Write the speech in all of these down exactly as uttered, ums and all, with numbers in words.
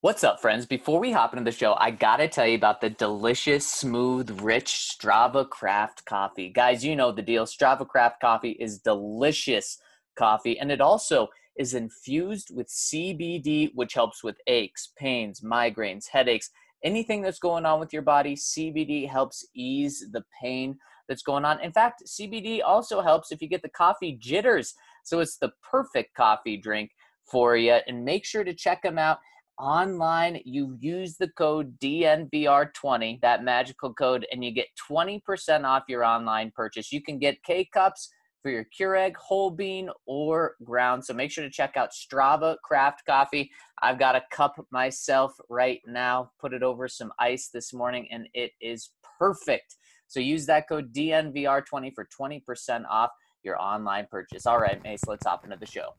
What's up, friends? Before we hop into the show, I gotta tell you about the delicious, smooth, rich Strava Craft coffee. Guys, you know the deal. Strava Craft coffee is delicious coffee, and it also is infused with C B D, which helps with aches, pains, migraines, headaches, anything that's going on with your body. C B D helps ease the pain that's going on. In fact, C B D also helps if you get the coffee jitters. So it's the perfect coffee drink for you, and make sure to check them out online. You use the code D N V R twenty, that magical code, and you get twenty percent off your online purchase. You can get K-Cups for your Keurig, whole bean, or ground. So make sure to check out Strava Craft Coffee. I've got a cup myself right now. Put it over some ice this morning, and it is perfect. So use that code D N V R twenty for twenty percent off your online purchase. All right, Mace, let's hop into the show.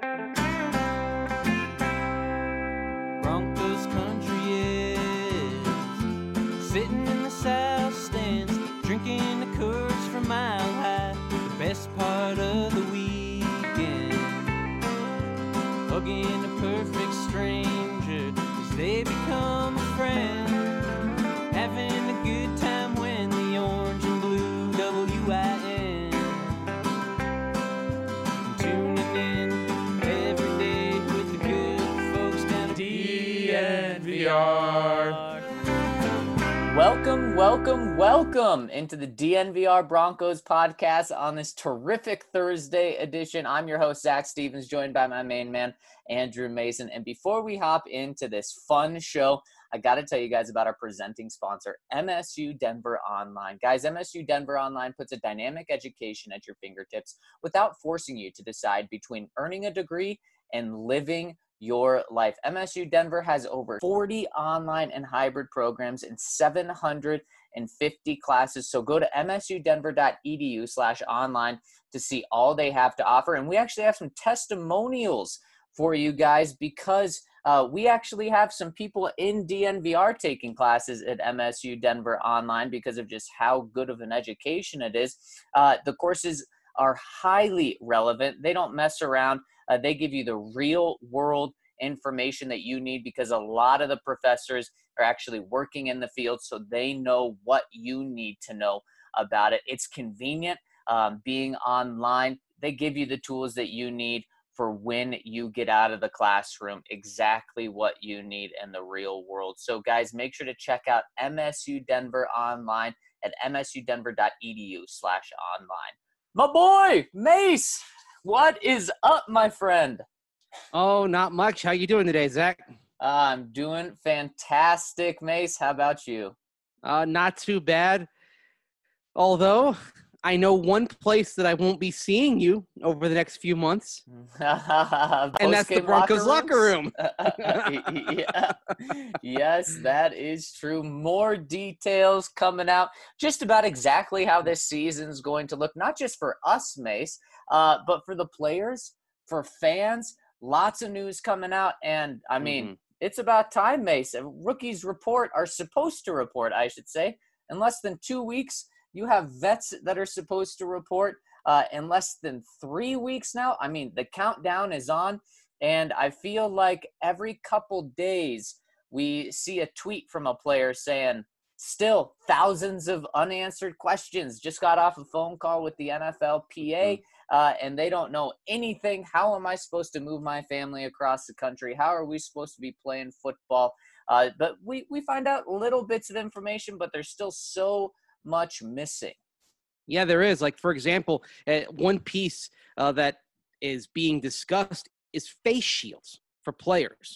Broncos country is sitting in the south stands, drinking the Coors from Mile High. The best part of the weekend, hugging a perfect stranger as they become a friend, having a good time when the orange and blue W I N, tuning in every day with the good folks down at D N V R. Welcome, welcome, welcome into the D N V R Broncos podcast on this terrific Thursday edition. I'm your host, Zach Stevens, joined by my main man, Andrew Mason. And before we hop into this fun show, I got to tell you guys about our presenting sponsor, M S U Denver Online. Guys, M S U Denver Online puts a dynamic education at your fingertips without forcing you to decide between earning a degree and living your life. M S U Denver has over forty online and hybrid programs and seven hundred fifty classes. So go to m s u denver dot e d u slash online to see all they have to offer. And we actually have some testimonials for you guys because uh, we actually have some people in D N V R taking classes at M S U Denver Online because of just how good of an education it is. Uh, the courses are highly relevant. They don't mess around. Uh, they give you the real world information that you need because a lot of the professors are actually working in the field, so they know what you need to know about it. It's convenient um, being online. They give you the tools that you need for when you get out of the classroom, exactly what you need in the real world. So guys, make sure to check out M S U Denver Online at m s u denver dot e d u slash online. My boy, Mace, what is up, my friend? Oh, not much. How you doing today, Zach? I'm doing fantastic, Mace. How about you? Uh, not too bad. Although, I know one place that I won't be seeing you over the next few months. And that's the Broncos locker room. Yeah. Yes, that is true. More details coming out just about exactly how this season's going to look, not just for us, Mace, uh, but for the players, for fans. Lots of news coming out, and I mean, mm-hmm. It's about time, Mace. Rookies report, are supposed to report, I should say. In less than two weeks, you have vets that are supposed to report. Uh, in less than three weeks now, I mean, the countdown is on, and I feel like every couple days we see a tweet from a player saying, still thousands of unanswered questions. Just got off a phone call with the N F L P A. Mm-hmm. Uh, and they don't know anything. How am I supposed to move my family across the country? How are we supposed to be playing football? Uh, but we, we find out little bits of information, but there's still so much missing. Yeah, there is. Like, for example, uh, one piece uh, that is being discussed is face shields for players.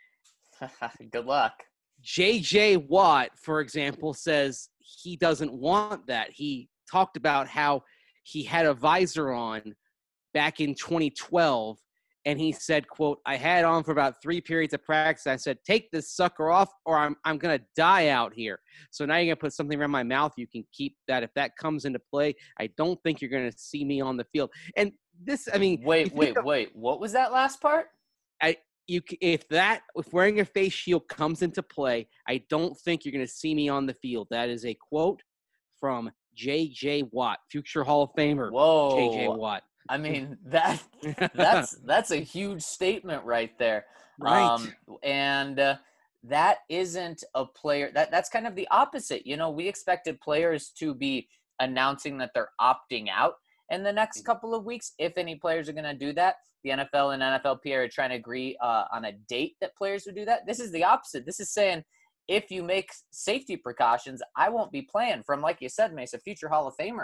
Good luck. J J Watt, for example, says he doesn't want that. He talked about how he had a visor on back in twenty twelve, and he said, quote, I had on for about three periods of practice. I said, take this sucker off or I'm I'm going to die out here. So now you're going to put something around my mouth. You can keep that. If that comes into play, I don't think you're going to see me on the field. And this, I mean. Wait, wait, of, wait. What was that last part? I you If that, if wearing a face shield comes into play, I don't think you're going to see me on the field. That is a quote from J J Watt, future Hall of Famer. Whoa. J J Watt. I mean, that that's that's a huge statement right there. Right. Um, and uh, that isn't a player that that's kind of the opposite. You know, we expected players to be announcing that they're opting out in the next couple of weeks, if any players are going to do that. The N F L and N F L P A are trying to agree uh, on a date that players would do that. This is the opposite. This is saying, if you make safety precautions, I won't be playing, from, like you said, Mace, a future Hall of Famer.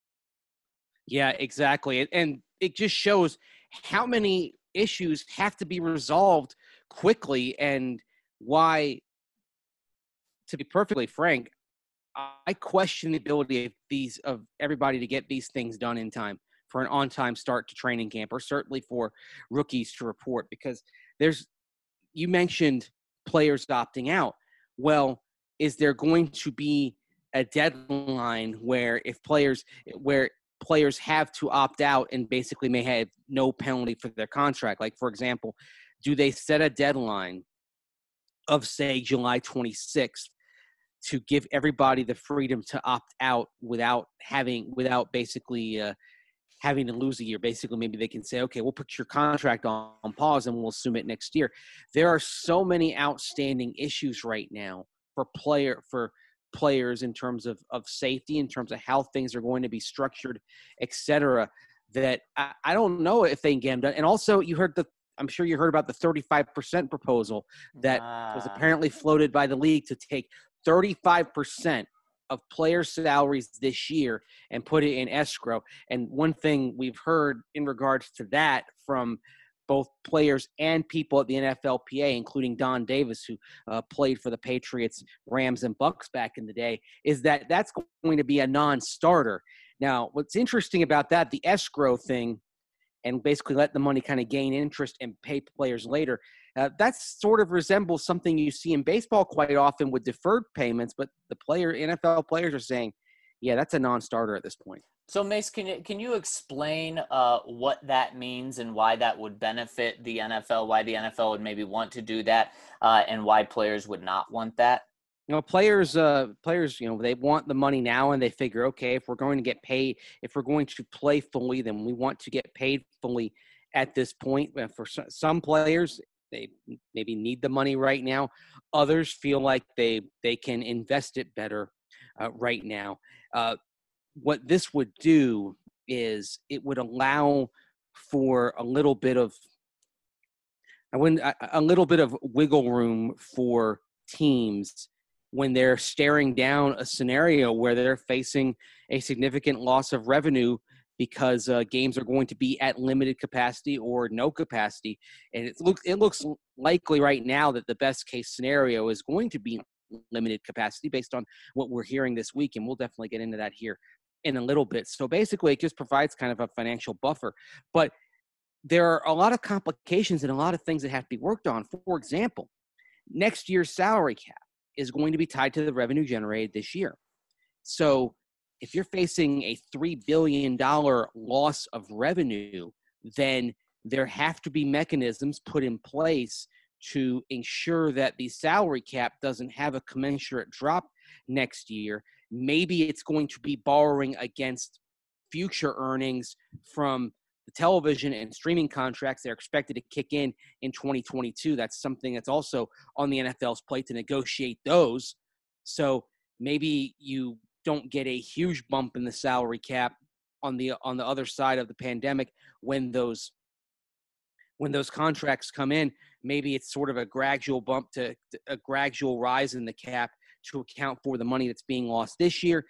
Yeah, exactly. And it just shows how many issues have to be resolved quickly, and why, to be perfectly frank, I question the ability of these of everybody to get these things done in time for an on-time start to training camp, or certainly for rookies to report, because there's, you mentioned players opting out. Well, is there going to be a deadline where if players where players have to opt out and basically may have no penalty for their contract? Like, for example, do they set a deadline of, say, July twenty-sixth to give everybody the freedom to opt out without having, without basically uh, having to lose a year? Basically, maybe they can say, okay, we'll put your contract on, on pause and we'll assume it next year. There are so many outstanding issues right now for player for players in terms of, of safety, in terms of how things are going to be structured, et cetera, that I, I don't know if they can get them done. And also, you heard the, I'm sure you heard about the thirty-five percent proposal that uh. was apparently floated by the league to take thirty-five percent of player salaries this year and put it in escrow. And one thing we've heard in regards to that from both players and people at the N F L P A, including Don Davis, who uh, played for the Patriots, Rams, and Bucks back in the day, is that that's going to be a non-starter. Now, what's interesting about that, the escrow thing, and basically let the money kind of gain interest and pay players later, Uh, that sort of resembles something you see in baseball quite often with deferred payments, but the player, N F L players are saying, yeah, that's a non-starter at this point. So, Mace, can you, can you explain uh, what that means and why that would benefit the N F L, why the N F L would maybe want to do that, uh, and why players would not want that? You know, players, uh, players, you know, they want the money now, and they figure, okay, if we're going to get paid, if we're going to play fully, then we want to get paid fully at this point. For some players, they maybe need the money right now. Others feel like they they can invest it better uh, right now. Uh, what this would do is it would allow for a little bit of I wouldn't a, a little bit of wiggle room for teams when they're staring down a scenario where they're facing a significant loss of revenue because uh, games are going to be at limited capacity or no capacity. And it looks it looks likely right now that the best case scenario is going to be limited capacity based on what we're hearing this week, and we'll definitely get into that here in a little bit. So basically, it just provides kind of a financial buffer. But there are a lot of complications and a lot of things that have to be worked on. For example, next year's salary cap is going to be tied to the revenue generated this year. So if you're facing a three billion dollars loss of revenue, then there have to be mechanisms put in place to ensure that the salary cap doesn't have a commensurate drop next year. Maybe it's going to be borrowing against future earnings from the television and streaming contracts that are expected to kick in in twenty twenty-two. That's something that's also on the N F L's plate to negotiate those. So maybe you don't get a huge bump in the salary cap on the on the other side of the pandemic when those when those contracts come in. Maybe it's sort of a gradual bump to a gradual rise in the cap to account for the money that's being lost this year.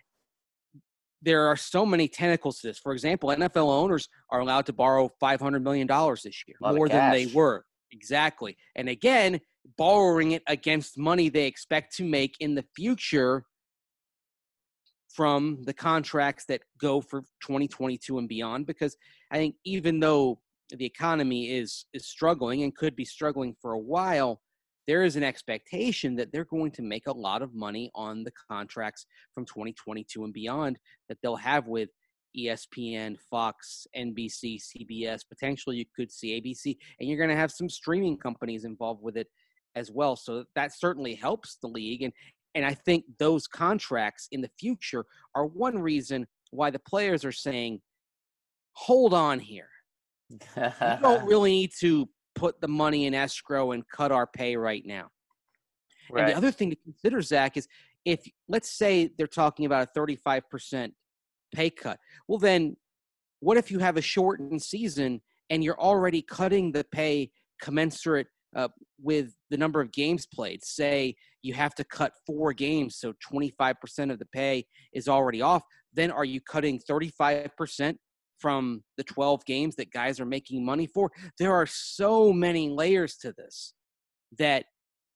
There are so many tentacles to this. For example, N F L owners are allowed to borrow five hundred million dollars this year, more than they were. Exactly. And again, borrowing it against money they expect to make in the future from the contracts that go for twenty twenty-two and beyond. Because I think even though the economy is is struggling and could be struggling for a while, there is an expectation that they're going to make a lot of money on the contracts from twenty twenty-two and beyond that they'll have with E S P N, Fox, N B C, C B S. Potentially you could see A B C, and you're going to have some streaming companies involved with it as well. So that certainly helps the league. And And I think those contracts in the future are one reason why the players are saying, hold on here. We don't really need to put the money in escrow and cut our pay right now. Right. And the other thing to consider, Zach, is if, let's say they're talking about a thirty-five percent pay cut. Well, then what if you have a shortened season and you're already cutting the pay commensurate uh, with the number of games played? Say you have to cut four games, so twenty-five percent of the pay is already off. Then are you cutting thirty-five percent from the twelve games that guys are making money for? There are so many layers to this that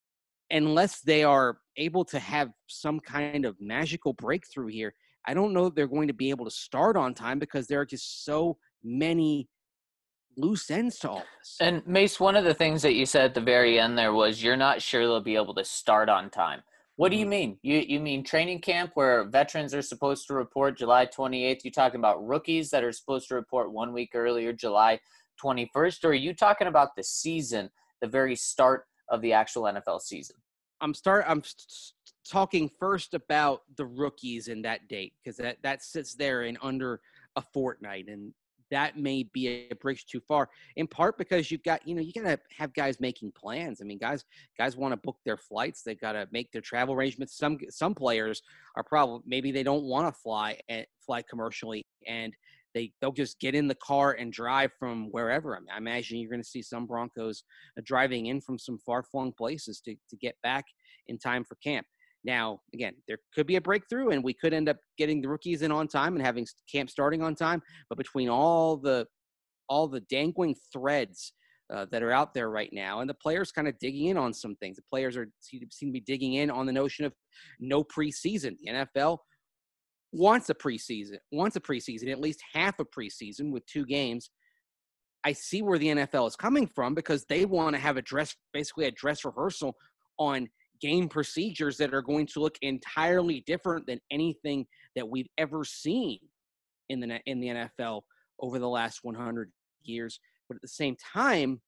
unless they are able to have some kind of magical breakthrough here, I don't know that they're going to be able to start on time because there are just so many loose ends to all this. And Mace, one of the things that you said at the very end there was you're not sure they'll be able to start on time. What do you mean? You you mean training camp where veterans are supposed to report July twenty-eighth? You talking about rookies that are supposed to report one week earlier, July twenty-first? Or are you talking about the season, the very start of the actual N F L season? I'm start. I'm talking first about the rookies in that date because that, that sits there in under a fortnight, and that may be a bridge too far, in part because you've got, you know, you got to have guys making plans. I mean, guys, guys want to book their flights. They got to make their travel arrangements. Some, some players are probably, maybe they don't want to fly and fly commercially, and they, they'll just get in the car and drive from wherever. I, mean, I imagine you're going to see some Broncos uh, driving in from some far-flung places to, to get back in time for camp. Now, again, there could be a breakthrough, and we could end up getting the rookies in on time and having camp starting on time. But between all the all the dangling threads uh, that are out there right now, and the players kind of digging in on some things, the players are seem to be digging in on the notion of no preseason. The N F L wants a preseason, wants a preseason, at least half a preseason with two games. I see where the N F L is coming from because they want to have a dress, basically a dress rehearsal on game procedures that are going to look entirely different than anything that we've ever seen in the in the N F L over the last one hundred years. But at the same time,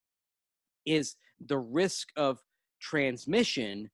is the risk of transmission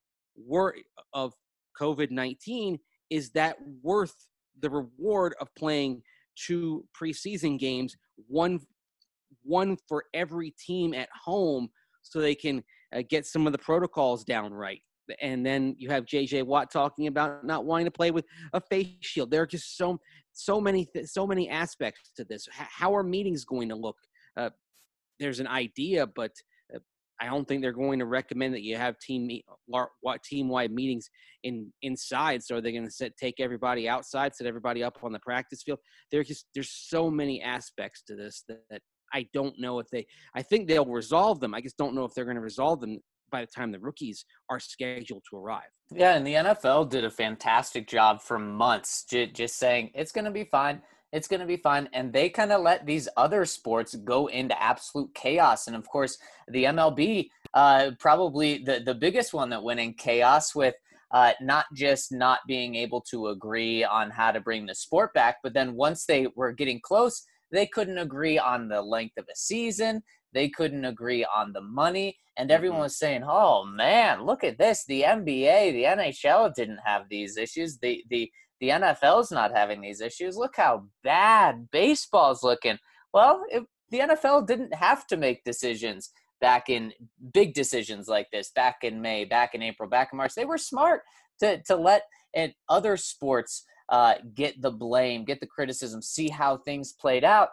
of COVID nineteen, is that worth the reward of playing two preseason games, one one for every team at home, so they can uh, get some of the protocols down right? And then you have J J Watt talking about not wanting to play with a face shield. There are just so so many th- so many aspects to this. H- how are meetings going to look? Uh, there's an idea, but uh, I don't think they're going to recommend that you have team what team wide meetings in inside. So are they going to set take everybody outside, set everybody up on the practice field? There's just there's so many aspects to this that, that I don't know if they. I think they'll resolve them. I just don't know if they're going to resolve them by the time the rookies are scheduled to arrive. Yeah, and the N F L did a fantastic job for months j- just saying, it's going to be fine, it's going to be fine, and they kind of let these other sports go into absolute chaos. And, of course, the M L B, uh, probably the, the biggest one that went in chaos with uh, not just not being able to agree on how to bring the sport back, but then once they were getting close, they couldn't agree on the length of a season. They couldn't agree on the money, and everyone was saying, oh, man, look at this. The N B A, the N H L didn't have these issues. The the the N F L's not having these issues. Look how bad baseball's looking. Well, it, the N F L didn't have to make decisions back in big decisions like this, back in May, back in April, back in March. They were smart to, to let and other sports uh, get the blame, get the criticism, see how things played out.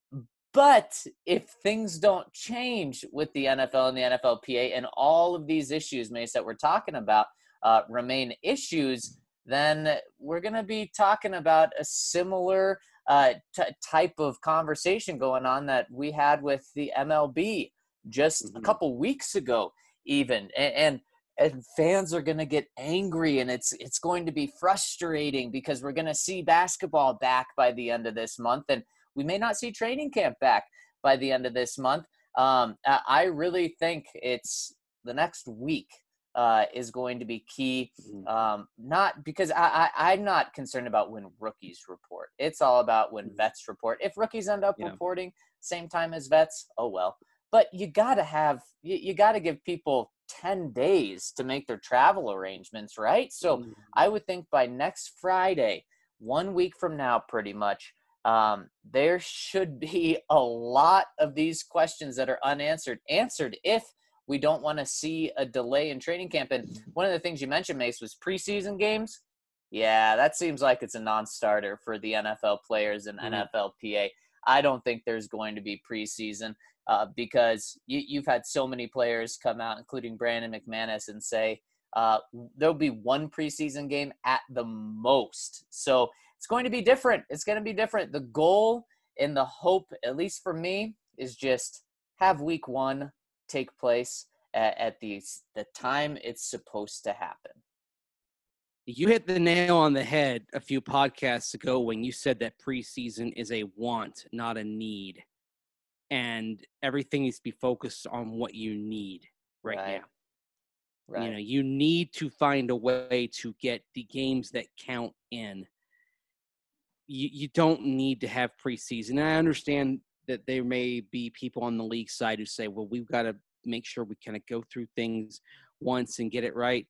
But if things don't change with the N F L and the N F L P A and all of these issues, Mace, that we're talking about uh, remain issues, then we're going to be talking about a similar uh, t- type of conversation going on that we had with the M L B just mm-hmm. a couple weeks ago even. And, and, and fans are going to get angry, and it's it's going to be frustrating because we're going to see basketball back by the end of this month, and we may not see training camp back by the end of this month. Um, I really think it's the next week uh, is going to be key. Um, not because I, I, I'm not concerned about when rookies report. It's all about when vets report. If rookies end up yeah. reporting same time as vets, oh well. But you got to have you, you got to give people ten days to make their travel arrangements, right? So mm-hmm. I would think by next Friday, one week from now, pretty much, Um, there should be a lot of these questions that are unanswered, answered if we don't want to see a delay in training camp. And one of the things you mentioned, Mace, was preseason games. Yeah, that seems like it's a non-starter for the N F L players and mm-hmm. N F L P A. I don't think there's going to be preseason uh, because you, you've had so many players come out, including Brandon McManus, and say uh, there'll be one preseason game at the most. So it's going to be different. It's going to be different. The goal and the hope, at least for me, is just have week one take place at, at the, the time it's supposed to happen. You hit the nail on the head a few podcasts ago when you said that preseason is a want, not a need. And everything needs to be focused on what you need right, right. now. Right. You know, you need to find a way to get the games that count in. You, you don't need to have preseason. And I understand that there may be people on the league side who say, well, we've got to make sure we kind of go through things once and get it right.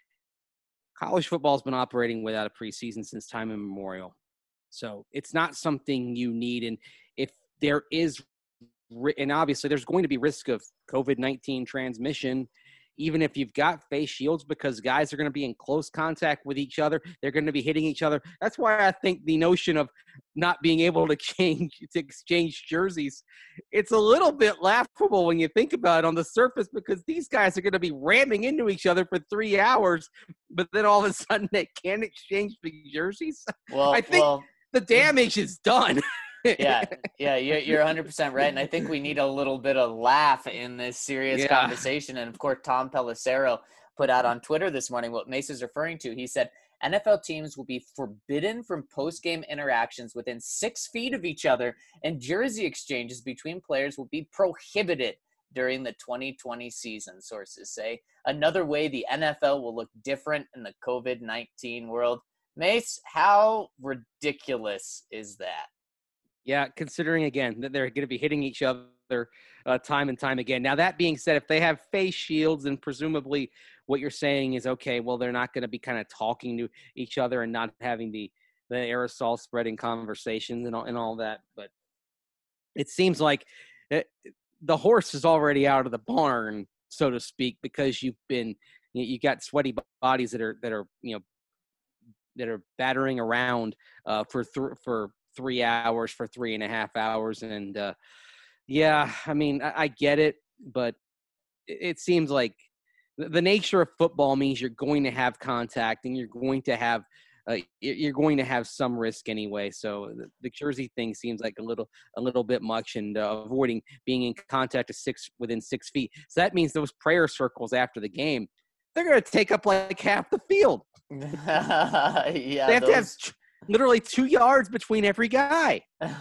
College football has been operating without a preseason since time immemorial. So it's not something you need. And if there is, and obviously there's going to be risk of covid nineteen transmission, even if you've got face shields, because guys are going to be in close contact with each other. They're going to be hitting each other. That's why I think the notion of not being able to change, to exchange jerseys, it's a little bit laughable when you think about it on the surface, because these guys are going to be ramming into each other for three hours, but then all of a sudden they can't exchange the jerseys. Well, I think well, the damage is done. yeah, yeah, you're, you're one hundred percent right. And I think we need a little bit of laugh in this serious yeah. conversation. And, of course, Tom Pelissero put out on Twitter this morning what Mace is referring to. He said, N F L teams will be forbidden from post-game interactions within six feet of each other, and jersey exchanges between players will be prohibited during the twenty twenty season, sources say. Another way the N F L will look different in the covid nineteen world. Mace, how ridiculous is that? Yeah, considering, again, that they're going to be hitting each other uh, time and time again. Now, that being said, if they have face shields, and presumably what you're saying is, okay, well, they're not going to be kind of talking to each other and not having the, the aerosol spreading conversations and all, and all that. But it seems like it, the horse is already out of the barn, so to speak, because you've been you, you got sweaty bodies that are that are you know that are battering around uh, for th- for. three hours for three and a half hours. And uh, yeah, I mean, I, I get it, but it, it seems like the, the nature of football means you're going to have contact and you're going to have, uh, you're going to have some risk anyway. So the, the jersey thing seems like a little, a little bit much, and uh, avoiding being in contact of six within six feet. So that means those prayer circles after the game, they're going to take up like half the field. yeah. They have those... to have literally two yards between every guy.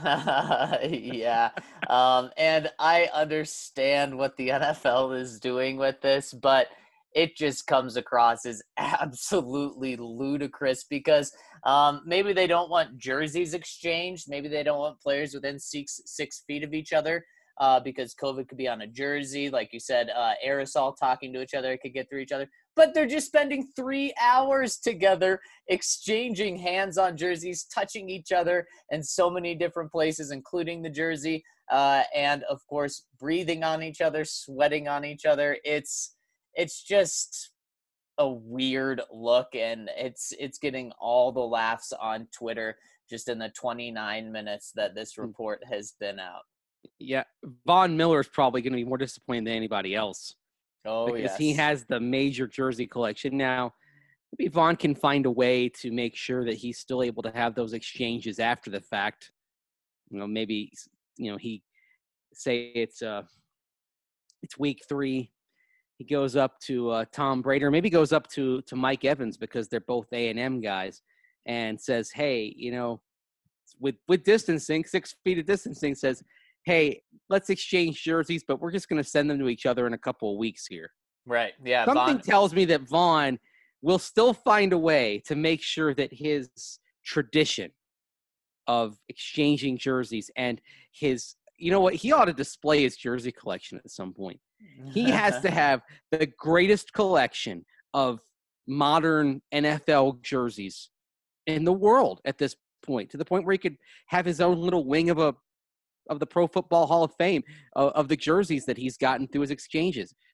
yeah. Um, and I understand what the N F L is doing with this, but it just comes across as absolutely ludicrous because um, maybe they don't want jerseys exchanged. Maybe they don't want players within six, six feet of each other uh, because COVID could be on a jersey. Like you said, uh, aerosol talking to each other, it could get through each other. But they're just spending three hours together exchanging hands on jerseys, touching each other in so many different places, including the jersey, uh, and, of course, breathing on each other, sweating on each other. It's it's just a weird look, and it's it's getting all the laughs on Twitter just in the twenty-nine minutes that this report has been out. Yeah, Von Miller is probably going to be more disappointed than anybody else. Oh, because yes. he has the major jersey collection. Now, maybe Vaughn can find a way to make sure that he's still able to have those exchanges after the fact. You know, maybe, you know, he say it's uh, it's week three. He goes up to uh, Tom Brady, or maybe goes up to, to Mike Evans because they're both A and M guys, and says, hey, you know, with, with distancing, six feet of distancing, says, hey, let's exchange jerseys, but we're just going to send them to each other in a couple of weeks here. Right. Yeah. Something Vaughn- tells me that Vaughn will still find a way to make sure that his tradition of exchanging jerseys and his, you know what, he ought to display his jersey collection at some point. He has to have the greatest collection of modern N F L jerseys in the world at this point, to the point where he could have his own little wing of a of the Pro Football Hall of Fame uh, of the jerseys that he's gotten through his exchanges.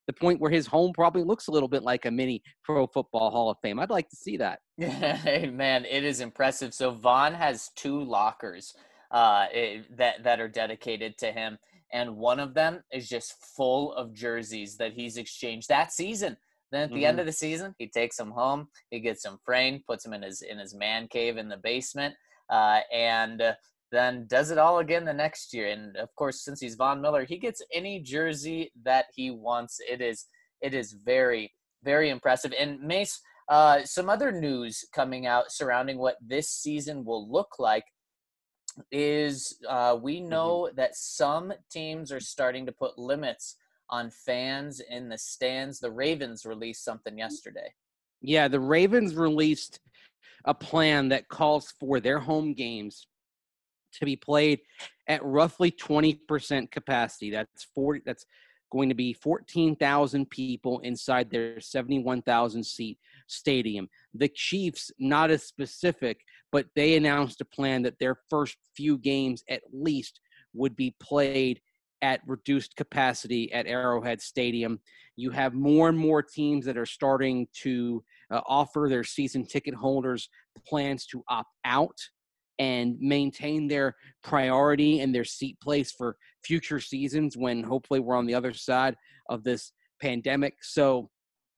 the point where his home probably looks a little bit like a mini Pro Football Hall of Fame. I'd like to see that. Hey, man, it is impressive. So Vaughn has two lockers uh, it, that that are dedicated to him, and one of them is just full of jerseys that he's exchanged that season. Then at the mm-hmm. end of the season, he takes them home, he gets them framed, puts them in his in his man cave in the basement, uh, and uh, then does it all again the next year. And of course, since he's Von Miller, he gets any jersey that he wants. It is it is very, very impressive. And Mace, uh, some other news coming out surrounding what this season will look like is uh, we know mm-hmm. that some teams are starting to put limits on fans in the stands. The Ravens released something yesterday. Yeah, the Ravens released a plan that calls for their home games to be played at roughly twenty percent capacity. That's forty. That's going to be fourteen thousand people inside their seventy-one thousand seat stadium. The Chiefs, not as specific, but they announced a plan that their first few games at least would be played at reduced capacity at Arrowhead Stadium. You have more and more teams that are starting to uh, offer their season ticket holders plans to opt out and maintain their priority and their seat place for future seasons when hopefully we're on the other side of this pandemic. So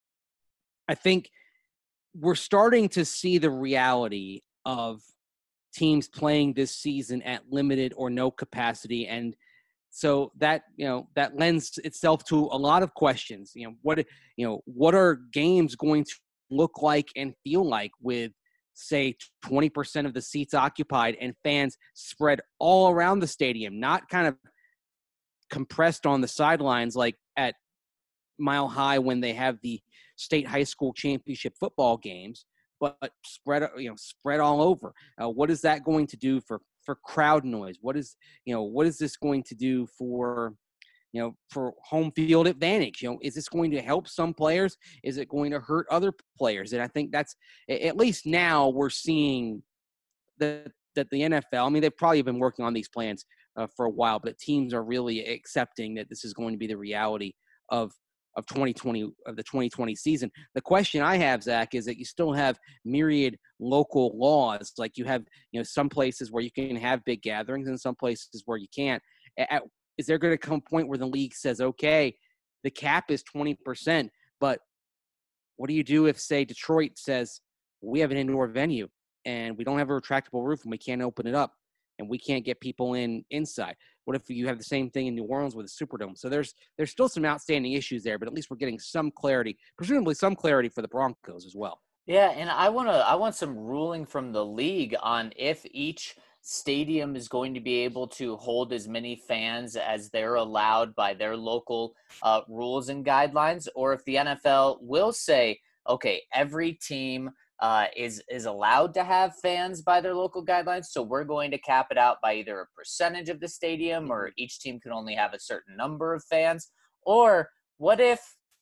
I think we're starting to see the reality of teams playing this season at limited or no capacity. And so that, you know, that lends itself to a lot of questions. You know, what, you know, what are games going to look like and feel like with, say, twenty percent of the seats occupied and fans spread all around the stadium, not kind of compressed on the sidelines like at Mile High when they have the state high school championship football games, but spread, you know, spread all over. Uh, what is that going to do for, for crowd noise? What is, you know, what is this going to do for, you know, for home field advantage? You know, is this going to help some players? Is it going to hurt other players? And I think that's, at least now we're seeing that, that the N F L, I mean, they've probably been working on these plans uh, for a while, but teams are really accepting that this is going to be the reality of, of twenty twenty, of the twenty twenty season. The question I have, Zach, is that you still have myriad local laws. Like you have, you know, some places where you can have big gatherings and some places where you can't. At, Is there going to come a point where the league says, okay, the cap is twenty percent, but what do you do if, say, Detroit says, we have an indoor venue and we don't have a retractable roof and we can't open it up and we can't get people in inside? What if you have the same thing in New Orleans with a Superdome? So there's there's still some outstanding issues there, but at least we're getting some clarity, presumably some clarity for the Broncos as well. Yeah, and I want to I want some ruling from the league on if each stadium is going to be able to hold as many fans as they're allowed by their local uh, rules and guidelines, or if the N F L will say, okay, every team uh, is is allowed to have fans by their local guidelines, so we're going to cap it out by either a percentage of the stadium or each team can only have a certain number of fans. Or what if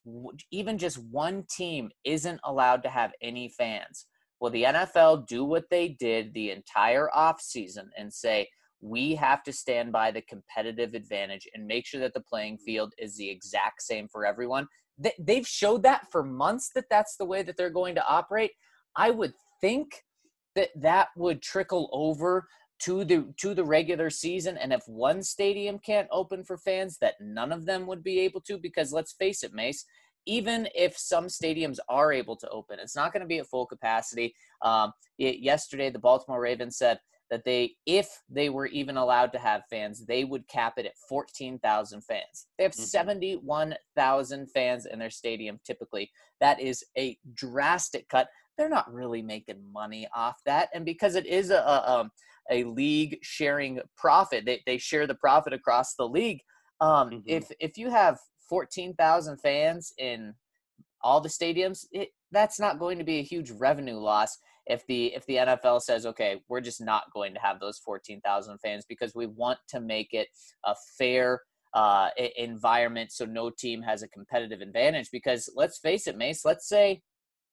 even just one team isn't allowed to have any fans? Will the N F L do what they did the entire offseason and say, we have to stand by the competitive advantage and make sure that the playing field is the exact same for everyone? They, they've showed that for months that that's the way that they're going to operate. I would think that that would trickle over to the to the regular season. And if one stadium can't open for fans, that none of them would be able to, because let's face it, Mace, even if some stadiums are able to open, it's not going to be at full capacity. Um, it, yesterday, the Baltimore Ravens said that they, if they were even allowed to have fans, they would cap it at fourteen thousand fans. They have mm-hmm. seventy-one thousand fans in their stadium typically. That is a drastic cut. They're not really making money off that. And because it is a, a, a league sharing profit, they, they share the profit across the league. Um, mm-hmm. If if you have fourteen thousand fans in all the stadiums, it, that's not going to be a huge revenue loss if the if the N F L says, okay, we're just not going to have those fourteen thousand fans because we want to make it a fair uh, environment so no team has a competitive advantage. Because let's face it, Mace, let's say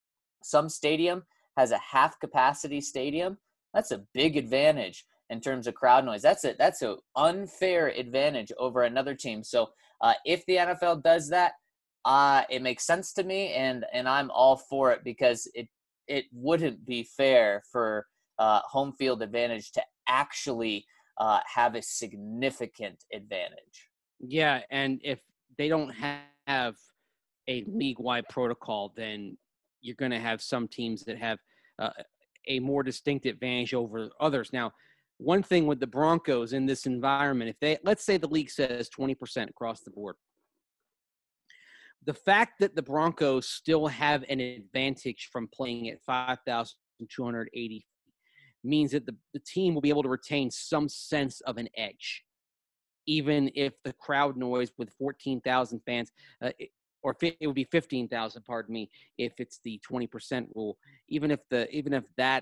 some stadium has a half capacity stadium. That's a big advantage in terms of crowd noise. That's a, that's an unfair advantage over another team. So uh, if the N F L does that, uh, it makes sense to me, and and I'm all for it because it it wouldn't be fair for uh, home field advantage to actually uh, have a significant advantage. Yeah, and if they don't have a league-wide protocol, then you're going to have some teams that have uh, a more distinct advantage over others. Now, one thing with the Broncos in this environment, if they, let's say the league says twenty percent across the board, the fact that the Broncos still have an advantage from playing at five thousand two hundred eighty means that the, the team will be able to retain some sense of an edge, even if the crowd noise with fourteen thousand fans, uh, it, or it would be fifteen thousand, pardon me, if it's the twenty percent rule, even if the, even if that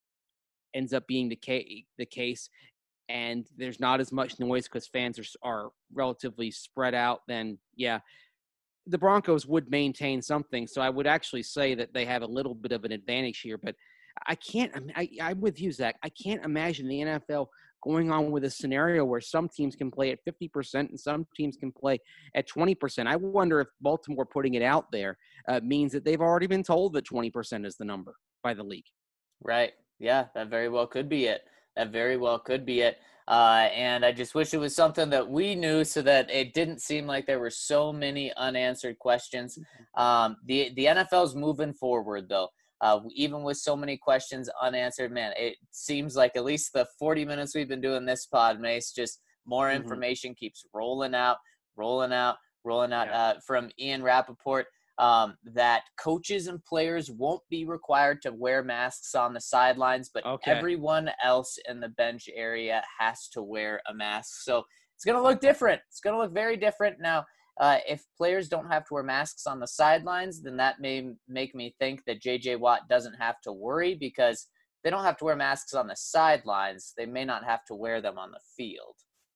ends up being the case, the case, and there's not as much noise because fans are, are relatively spread out, then yeah, the Broncos would maintain something. So I would actually say that they have a little bit of an advantage here, but I can't, I, I'm with you, Zach. I can't imagine the N F L going on with a scenario where some teams can play at fifty percent and some teams can play at twenty percent. I wonder if Baltimore putting it out there uh, means that they've already been told that twenty percent is the number by the league. Right. Yeah, that very well could be it. That very well could be it. Uh, and I just wish it was something that we knew so that it didn't seem like there were so many unanswered questions. Um, the, the N F L's moving forward, though. Uh, even with so many questions unanswered, man, it seems like at least the forty minutes we've been doing this pod, Mace, just more information mm-hmm. keeps rolling out, rolling out, rolling out yeah. uh, from Ian Rappaport. Um, that coaches and players won't be required to wear masks on the sidelines, but okay. everyone else in the bench area has to wear a mask. So it's going to look different. It's going to look very different. Now, uh, if players don't have to wear masks on the sidelines, then that may make me think that J J Watt doesn't have to worry because they don't have to wear masks on the sidelines. They may not have to wear them on the field.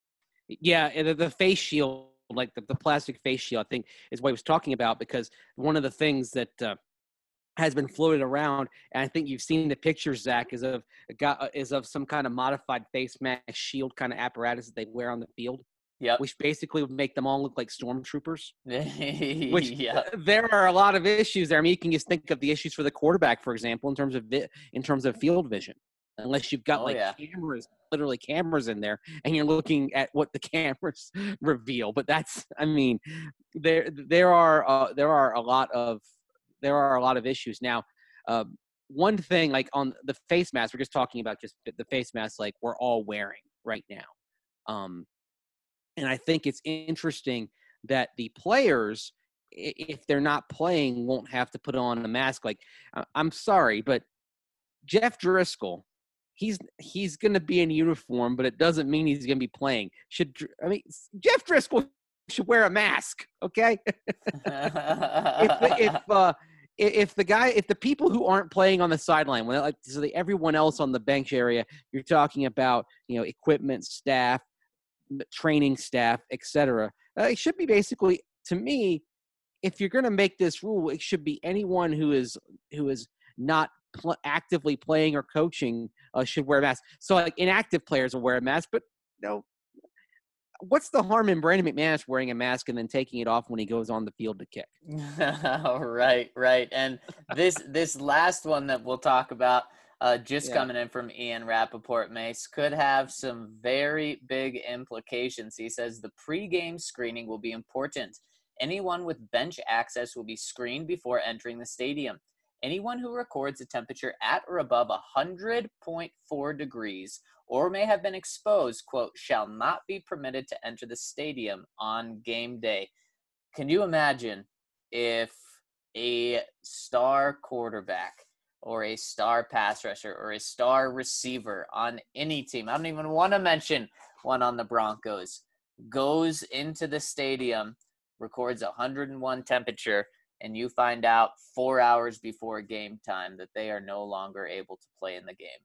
Yeah, the, the face shield. Like the, the plastic face shield, I think, is what he was talking about, because one of the things that uh, has been floated around, and I think you've seen the pictures, Zach, is of is of some kind of modified face mask shield kind of apparatus that they wear on the field. Yeah, which basically would make them all look like stormtroopers. Which yeah. there are a lot of issues there. I mean, you can just think of the issues for the quarterback, for example, in terms of vi- in terms of field vision. Unless you've got oh, like yeah. cameras, literally cameras in there, and you're looking at what the cameras reveal. But that's, I mean, there there are uh, there are a lot of there are a lot of issues now. Uh, one thing, like on the face mask, we're just talking about just the face mask, like we're all wearing right now. Um, and I think it's interesting that the players, if they're not playing, won't have to put on a mask. Like, I'm sorry, but Jeff Driscoll. He's he's going to be in uniform, but it doesn't mean he's going to be playing. Should I mean Jeff Driscoll should wear a mask, okay? if the, if uh, if the guy, if the people who aren't playing on the sideline, when like so the, everyone else on the bench area, you're talking about, you know, equipment staff, training staff, et cetera. Uh, it should be basically, to me, if you're going to make this rule, it should be anyone who is who is not pl- actively playing or coaching uh, should wear a mask. So like inactive players will wear a mask, but you know, what's the harm in Brandon McManus wearing a mask and then taking it off when he goes on the field to kick? right, right. And this this last one that we'll talk about, uh, just yeah. coming in from Ian Rappaport, Mace, could have some very big implications. He says the pregame screening will be important. Anyone with bench access will be screened before entering the stadium. Anyone who records a temperature at or above one hundred point four degrees or may have been exposed, quote, shall not be permitted to enter the stadium on game day. Can you imagine if a star quarterback or a star pass rusher or a star receiver on any team, I don't even want to mention one on the Broncos, goes into the stadium, records one hundred one temperature, and you find out four hours before game time that they are no longer able to play in the game?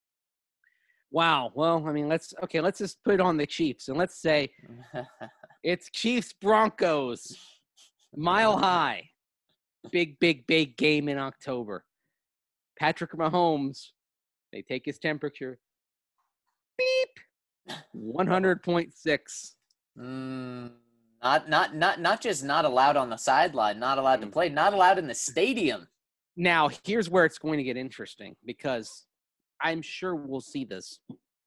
Wow. Well, I mean, let's – okay, let's just put it on the Chiefs. And let's say it's Chiefs-Broncos, Mile High, big, big, big game in October. Patrick Mahomes, they take his temperature. Beep. one hundred point six. Mm, Not not not not just not allowed on the sideline, not allowed to Mm. play, not allowed in the stadium. Now, here's where it's going to get interesting because I'm sure we'll see this.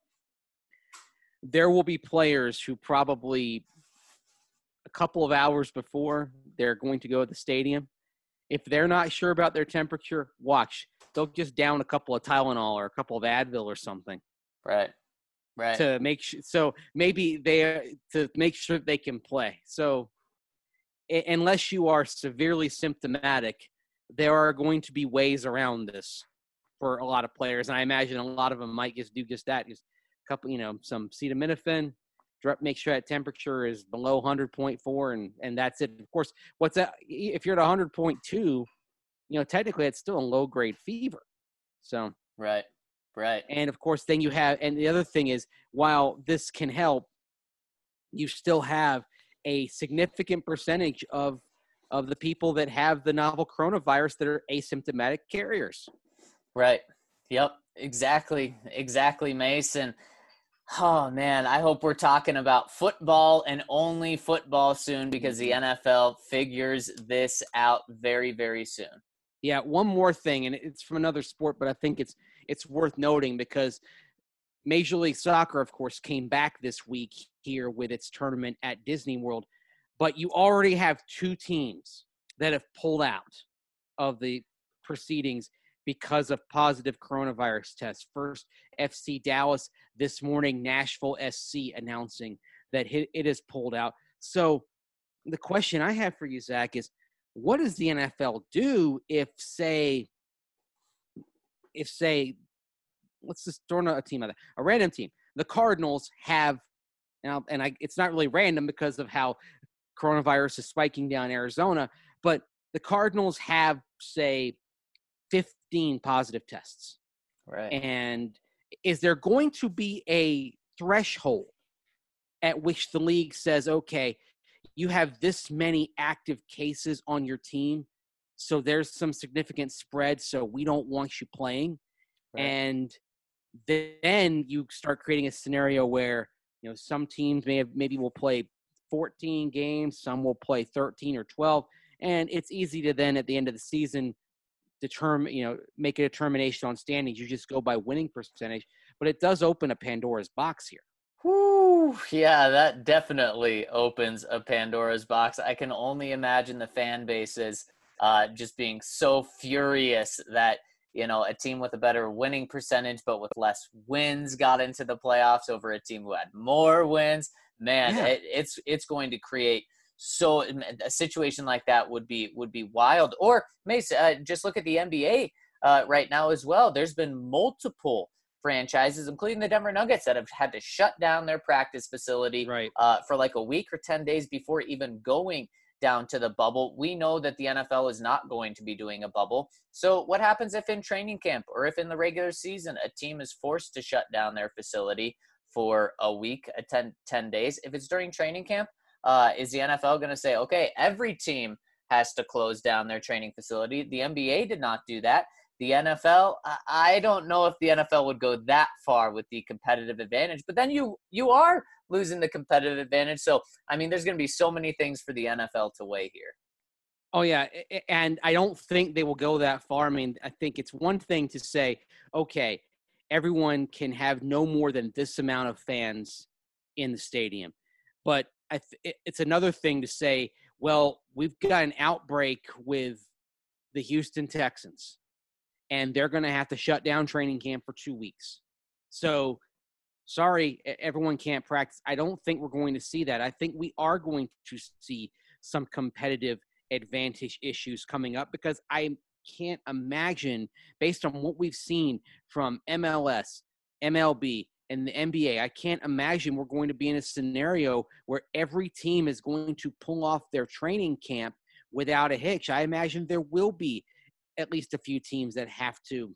There will be players who probably a couple of hours before they're going to go to the stadium, if they're not sure about their temperature, watch. They'll just down a couple of Tylenol or a couple of Advil or something. Right. Right. To make sure, so maybe they to make sure they can play. So I- unless you are severely symptomatic, there are going to be ways around this for a lot of players, and I imagine a lot of them might just do just that. Just a couple, you know, some acetaminophen, make sure that temperature is below one hundred point four, and and that's it. Of course, what's that? If you're at one hundred point two, you know, technically it's still a low grade fever. So right. Right. And of course, then you have, and the other thing is, while this can help, you still have a significant percentage of of the people that have the novel coronavirus that are asymptomatic carriers. Right. Yep. Exactly. Exactly, Mason. Oh man, I hope we're talking about football and only football soon because the N F L figures this out very, very soon. Yeah, one more thing, and it's from another sport, but I think it's it's worth noting because Major League Soccer, of course, came back this week here with its tournament at Disney World, but you already have two teams that have pulled out of the proceedings because of positive coronavirus tests. First, F C Dallas this morning, Nashville S C announcing that it has pulled out. So the question I have for you, Zach, is what does the N F L do if, say, if, say, let's just throw a team out there, a random team. The Cardinals have, now, and I, it's not really random because of how coronavirus is spiking down Arizona, but the Cardinals have, say, fifteen positive tests. Right. And is there going to be a threshold at which the league says, okay, you have this many active cases on your team, so there's some significant spread, so we don't want you playing. Right. And then you start creating a scenario where, you know, some teams may have maybe will play fourteen games, some will play thirteen or twelve, and it's easy to then at the end of the season determine, you know, make a determination on standings. You just go by winning percentage, but it does open a Pandora's box here. Whew, yeah, that definitely opens a Pandora's box. I can only imagine the fan bases uh, just being so furious that, you know, a team with a better winning percentage but with less wins got into the playoffs over a team who had more wins. Man, Yeah. it, it's it's going to create so a situation like that would be would be wild. Or Mace, uh, just look at the N B A uh, right now as well. There's been multiple franchises, including the Denver Nuggets, that have had to shut down their practice facility right. uh, for like a week or ten days before even going down to the bubble. We know that the N F L is not going to be doing a bubble. So what happens if in training camp or if in the regular season a team is forced to shut down their facility for a week, a ten, ten days? If it's during training camp, uh, is the N F L going to say, okay, every team has to close down their training facility? The N B A did not do that. The N F L, I don't know if the N F L would go that far with the competitive advantage, but then you you are losing the competitive advantage. So, I mean, there's going to be so many things for the N F L to weigh here. Oh, yeah, and I don't think they will go that far. I mean, I think it's one thing to say, okay, everyone can have no more than this amount of fans in the stadium. But I th- it's another thing to say, well, we've got an outbreak with the Houston Texans, and they're going to have to shut down training camp for two weeks. So, sorry, everyone can't practice. I don't think we're going to see that. I think we are going to see some competitive advantage issues coming up because I can't imagine, based on what we've seen from M L S, M L B, and the N B A, I can't imagine we're going to be in a scenario where every team is going to pull off their training camp without a hitch. I imagine there will be at least a few teams that have to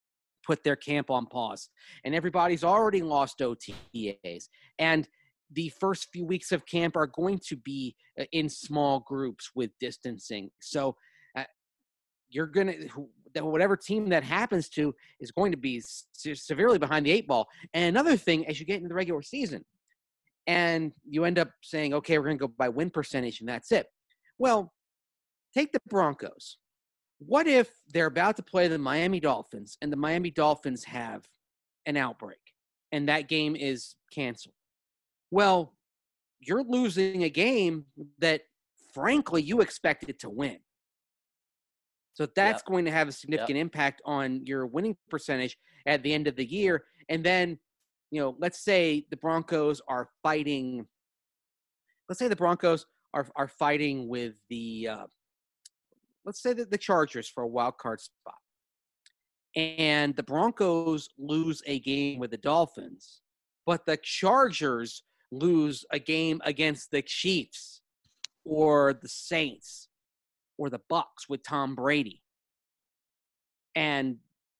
put their camp on pause. And everybody's already lost O T As. And the first few weeks of camp are going to be in small groups with distancing. So uh, you're going to, whatever team that happens to is going to be se- severely behind the eight ball. And another thing, as you get into the regular season, and you end up saying, okay, we're going to go by win percentage, and that's it. Well, take the Broncos. What if they're about to play the Miami Dolphins, and the Miami Dolphins have an outbreak, and that game is canceled? Well, you're losing a game that, frankly, you expected to win. So that's yep. going to have a significant yep. impact on your winning percentage at the end of the year. And then, you know, let's say the Broncos are fighting. Let's say the Broncos are are fighting with the. Uh, let's say that the Chargers for a wild card spot, and the Broncos lose a game with the Dolphins, but the Chargers lose a game against the Chiefs or the Saints or the Bucks with Tom Brady. And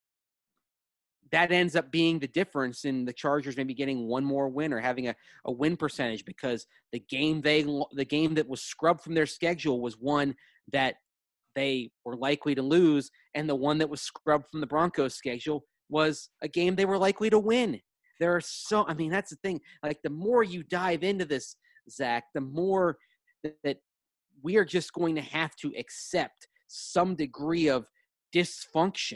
that ends up being the difference in the Chargers maybe getting one more win or having a, a win percentage, because the game they the game that was scrubbed from their schedule was one that they were likely to lose, and the one that was scrubbed from the Broncos schedule was a game they were likely to win. There are so, I mean, that's the thing. Like, the more you dive into this, Zach, the more that, that we are just going to have to accept some degree of dysfunction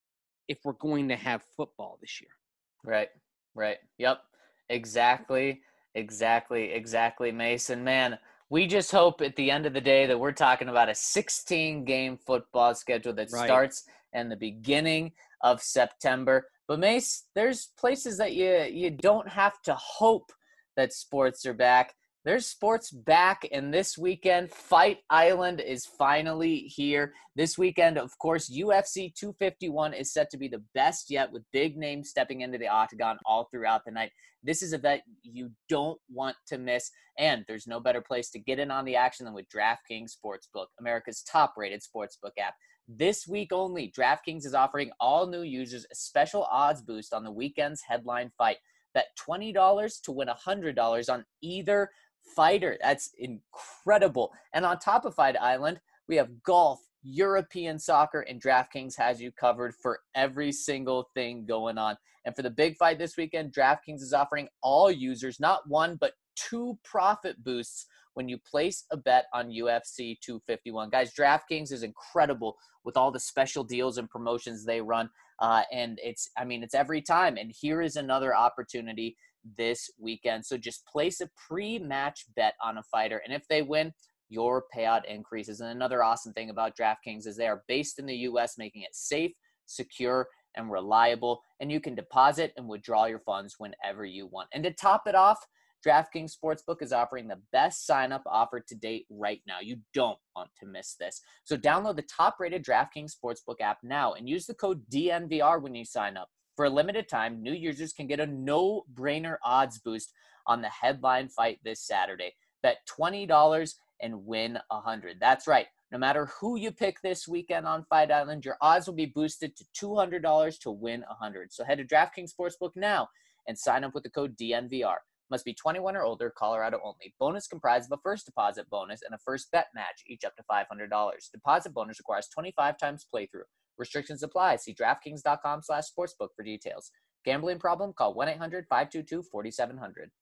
if we're going to have football this year. Right, right. Yep, exactly, exactly, exactly, Mason. Man, we just hope at the end of the day that we're talking about a sixteen-game football schedule that right. starts in the beginning of September. But, Mace, there's places that you you don't have to hope that sports are back. There's sports back, and this weekend, Fight Island is finally here. This weekend, of course, U F C two fifty-one is set to be the best yet, with big names stepping into the octagon all throughout the night. This is a event you don't want to miss, and there's no better place to get in on the action than with DraftKings Sportsbook, America's top-rated sportsbook app. This week only, DraftKings is offering all new users a special odds boost on the weekend's headline fight. Bet twenty dollars to win one hundred dollars on either fighter. That's incredible. And on top of Fight Island, we have golf, European soccer, and DraftKings has you covered for every single thing going on. And for the big fight this weekend, DraftKings is offering all users not one, but two profit boosts when you place a bet on U F C two fifty-one. Guys, DraftKings is incredible with all the special deals and promotions they run. Uh, and it's, I mean, it's every time. And here is another opportunity this weekend. So just place a pre-match bet on a fighter, and if they win, your payout increases. And another awesome thing about DraftKings is they are based in the U S, making it safe, secure, and reliable, and you can deposit and withdraw your funds whenever you want. And to top it off, DraftKings Sportsbook is offering the best sign-up offer to date right now. You don't want to miss this. So download the top-rated DraftKings Sportsbook app now and use the code D N V R when you sign up. For a limited time, new users can get a no-brainer odds boost on the headline fight this Saturday. Bet twenty dollars and win one hundred dollars. That's right. No matter who you pick this weekend on Fight Island, your odds will be boosted to two hundred dollars to win one hundred dollars. So head to DraftKings Sportsbook now and sign up with the code D N V R. Must be twenty-one or older, Colorado only. Bonus comprised of a first deposit bonus and a first bet match, each up to five hundred dollars. Deposit bonus requires twenty-five times playthrough. Restrictions apply. See DraftKings.com slash sportsbook for details. Gambling problem? Call one eight hundred five two two four seven zero zero.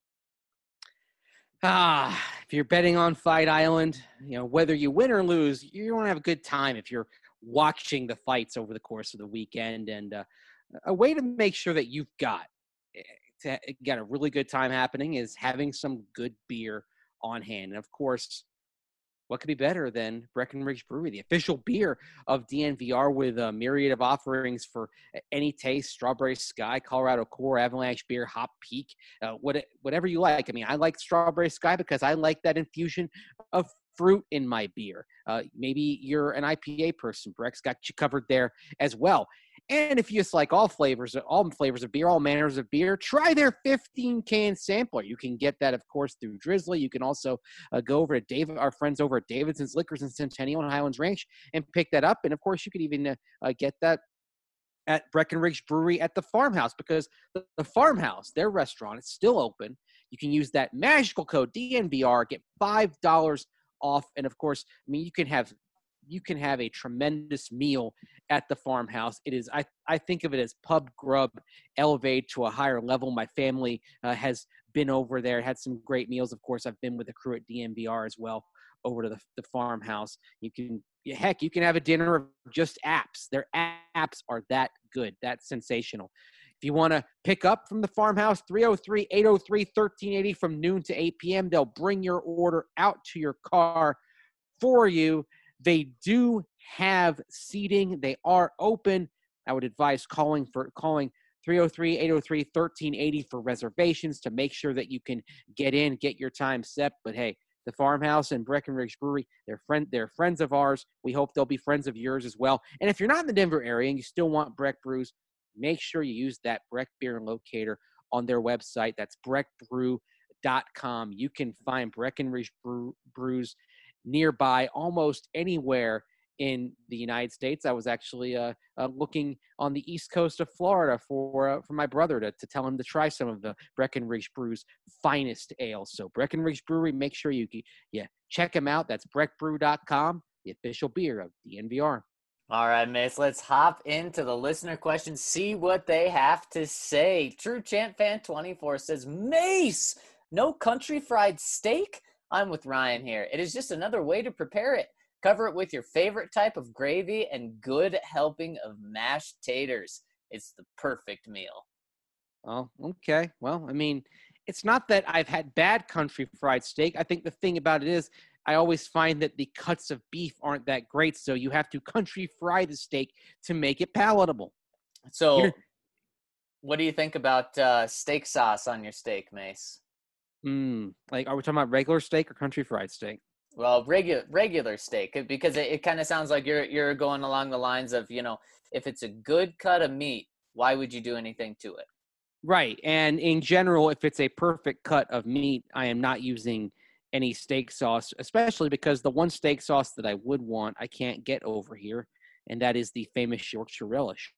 Ah, if you're betting on Fight Island, you know, whether you win or lose, you're going to have a good time if you're watching the fights over the course of the weekend. And uh, a way to make sure that you've got to get a really good time happening is having some good beer on hand. And of course, what could be better than Breckenridge Brewery, the official beer of D N V R, with a myriad of offerings for any taste: Strawberry Sky, Colorado Core, Avalanche Beer, Hop Peak, uh, what, whatever you like. I mean, I like Strawberry Sky because I like that infusion of fruit in my beer. Uh, maybe you're an I P A person. Breck's got you covered there as well. And if you just like all flavors, all flavors of beer, all manners of beer, try their fifteen-can sampler. You can get that, of course, through Drizzly. You can also uh, go over to David, our friends over at Davidson's Liquors in Centennial and Highlands Ranch, and pick that up. And, of course, you could even uh, uh, get that at Breckenridge Brewery at the Farmhouse, because the, the Farmhouse, their restaurant, is still open. You can use that magical code D N V R, get five dollars off. And, of course, I mean, you can have you can have a tremendous meal at the Farmhouse. It is, I, I think of it as pub grub elevated to a higher level. My family uh, has been over there, had some great meals. Of course, I've been with the crew at D N V R as well over to the, the farmhouse. You can, heck, you can have a dinner of just apps. Their apps are that good, that sensational. If you want to pick up from the farmhouse, three oh three, eight oh three, thirteen eighty from noon to eight p.m. They'll bring your order out to your car for you. They do have seating. They are open. I would advise calling for calling three oh three, eight oh three, thirteen eighty for reservations to make sure that you can get in, get your time set. But hey, the farmhouse and Breckenridge Brewery, they're friend they're friends of ours. We hope they'll be friends of yours as well. And if you're not in the Denver area and you still want Breck Brews, make sure you use that Breck Beer Locator on their website. That's breck brew dot com. You can find Breckenridge Brew, Brews nearby almost anywhere in the United States. I was actually uh, uh, looking on the east coast of Florida for uh, for my brother to, to tell him to try some of the Breckenridge Brew's finest ales. So Breckenridge Brewery, make sure you yeah check them out. That's breck brew dot com, the official beer of D N V R. All right, Mace, let's hop into the listener questions, see what they have to say. True Champ Fan twenty-four says, Mace, no country fried steak? I'm with Ryan here. It is just another way to prepare it. Cover it with your favorite type of gravy and good helping of mashed taters. It's the perfect meal. Oh, okay. Well, I mean, it's not that I've had bad country fried steak. I think the thing about it is I always find that the cuts of beef aren't that great, so you have to country fry the steak to make it palatable. So You're, what do you think about uh, steak sauce on your steak, Mace? Mm, like, are we talking about regular steak or country fried steak? Well, regular regular steak, because it, it kind of sounds like you're you're going along the lines of, you know, if it's a good cut of meat, why would you do anything to it? Right. And in general, if it's a perfect cut of meat, I am not using any steak sauce, especially because the one steak sauce that I would want, I can't get over here, and that is the famous Yorkshire relish.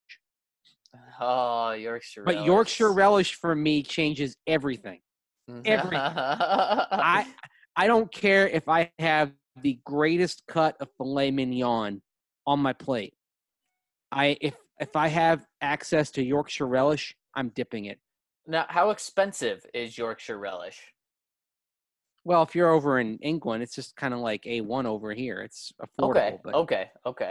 Oh, Yorkshire but relish. But Yorkshire relish for me changes everything. Everything. I I don't care if I have the greatest cut of filet mignon on my plate. I if if I have access to Yorkshire relish, I'm dipping it. Now, how expensive is Yorkshire relish? Well, if you're over in England, it's just kind of like A one over here. It's affordable. Okay, but okay, okay.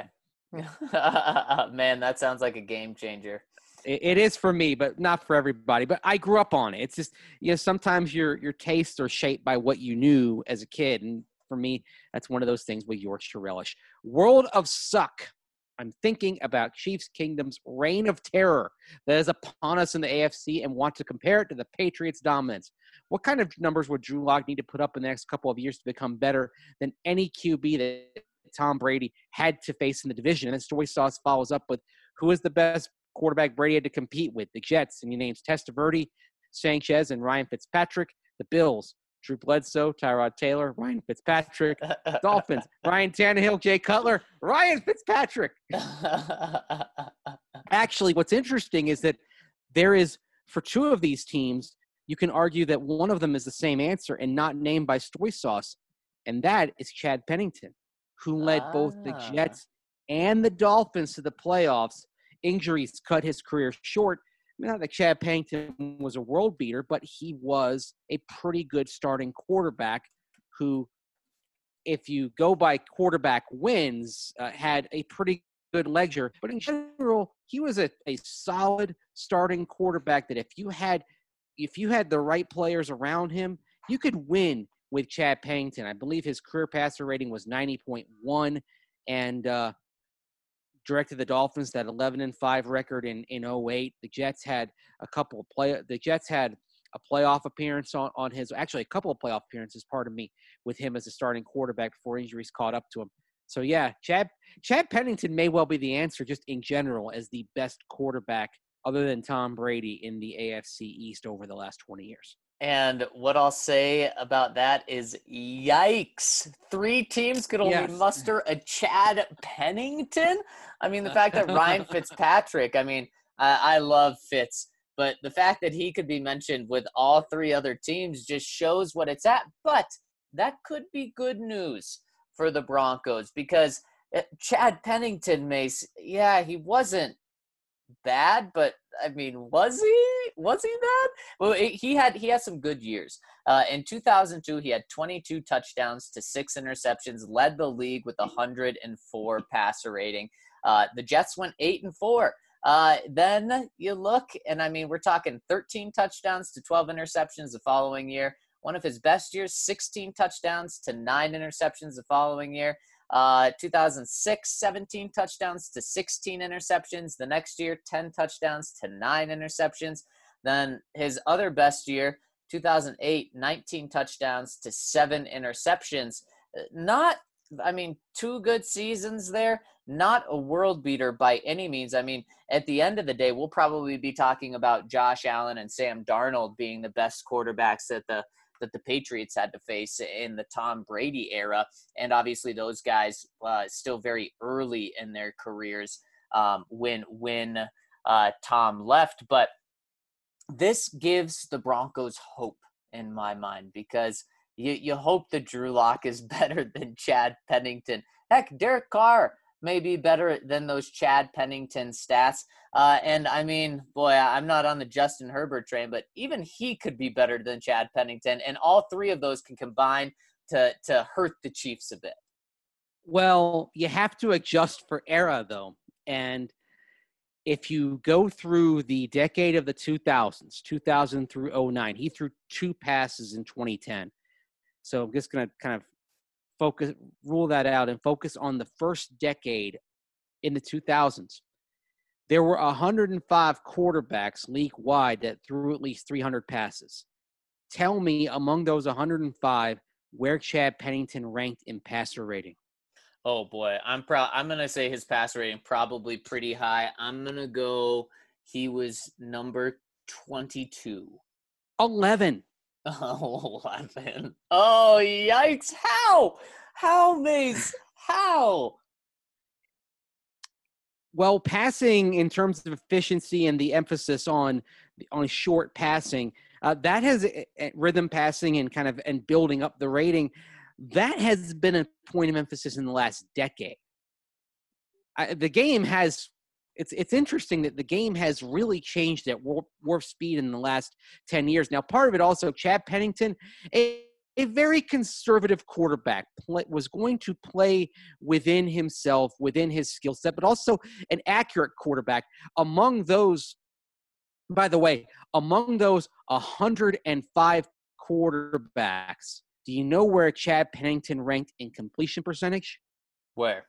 Man, that sounds like a game changer. It, it is for me, but not for everybody. But I grew up on it. It's just, you know, sometimes your your tastes are shaped by what you knew as a kid. And for me, that's one of those things with Yorkshire relish. World of Suck. I'm thinking about Chiefs Kingdom's reign of terror that is upon us in the A F C and want to compare it to the Patriots' dominance. What kind of numbers would Drew Lock need to put up in the next couple of years to become better than any Q B that Tom Brady had to face in the division? And then Story Sauce follows up with, who is the best quarterback Brady had to compete with? The Jets, and he names Testaverde, Sanchez, and Ryan Fitzpatrick. The Bills, Drew Bledsoe, Tyrod Taylor, Ryan Fitzpatrick. Dolphins, Ryan Tannehill, Jay Cutler, Ryan Fitzpatrick. Actually, what's interesting is that there is, for two of these teams, you can argue that one of them is the same answer and not named by Story Sauce, and that is Chad Pennington, who led ah. both the Jets and the Dolphins to the playoffs. Injuries cut his career short. I mean, not that Chad Pennington was a world beater, but he was a pretty good starting quarterback who, if you go by quarterback wins, uh, had a pretty good ledger. But in general, he was a, a solid starting quarterback that if you had if you had the right players around him, you could win with Chad Pennington. I believe his career passer rating was ninety point one, and uh, directed the Dolphins that eleven and five record in in oh eight. The Jets had a couple of play. The Jets had a playoff appearance on, on his actually a couple of playoff appearances. Pardon me, with him as a starting quarterback before injuries caught up to him. So yeah, Chad Chad Pennington may well be the answer just in general as the best quarterback other than Tom Brady in the A F C East over the last twenty years. And what I'll say about that is, yikes. Three teams could only yes. muster a Chad Pennington? I mean, the fact that Ryan Fitzpatrick, I mean, I, I love Fitz, but the fact that he could be mentioned with all three other teams just shows what it's at. But that could be good news for the Broncos because Chad Pennington, Mace, yeah, he wasn't bad, but I mean, was he? Was he bad? Well, it, he had he had some good years. Uh, in two thousand two, he had twenty-two touchdowns to six interceptions, led the league with a one hundred four passer rating. Uh, the Jets went eight and four. Uh, then you look, and I mean, we're talking thirteen touchdowns to twelve interceptions the following year. One of his best years, sixteen touchdowns to nine interceptions the following year. Uh, two thousand six, seventeen touchdowns to sixteen interceptions. The next year, ten touchdowns to nine interceptions. Then his other best year, two thousand eight, nineteen touchdowns to seven interceptions. Not, I mean, two good seasons there. Not a world beater by any means. I mean, at the end of the day, we'll probably be talking about Josh Allen and Sam Darnold being the best quarterbacks that the that the Patriots had to face in the Tom Brady era. And obviously those guys uh, still very early in their careers um, when, when uh, Tom left. But this gives the Broncos hope in my mind, because you, you hope that Drew Lock is better than Chad Pennington. Heck, Derek Carr may be better than those Chad Pennington stats. Uh, and I mean, boy, I'm not on the Justin Herbert train, but even he could be better than Chad Pennington. And all three of those can combine to, to hurt the Chiefs a bit. Well, you have to adjust for era, though. And if you go through the decade of the two thousands, two thousand through oh nine, he threw two passes in twenty ten. So I'm just going to kind of focus, rule that out and focus on the first decade in the two thousands. There were one hundred five quarterbacks league-wide that threw at least three hundred passes. Tell me, among those one hundred five, where Chad Pennington ranked in passer rating. Oh, boy. I'm proud. I'm going to say his passer rating probably pretty high. I'm going to go he was number twenty-two. eleven. Oh, eleven. Oh, yikes. How? How, Mace? How? Well, passing in terms of efficiency and the emphasis on on short passing, uh, that has uh, rhythm passing and kind of and building up the rating. That has been a point of emphasis in the last decade. I, the game has it's it's interesting that the game has really changed at warp, warp speed in the last ten years. Now, part of it also, Chad Pennington, a, a very conservative quarterback, play, was going to play within himself, within his skill set, but also an accurate quarterback. Among those, by the way, among those one hundred five quarterbacks, do you know where Chad Pennington ranked in completion percentage? Where?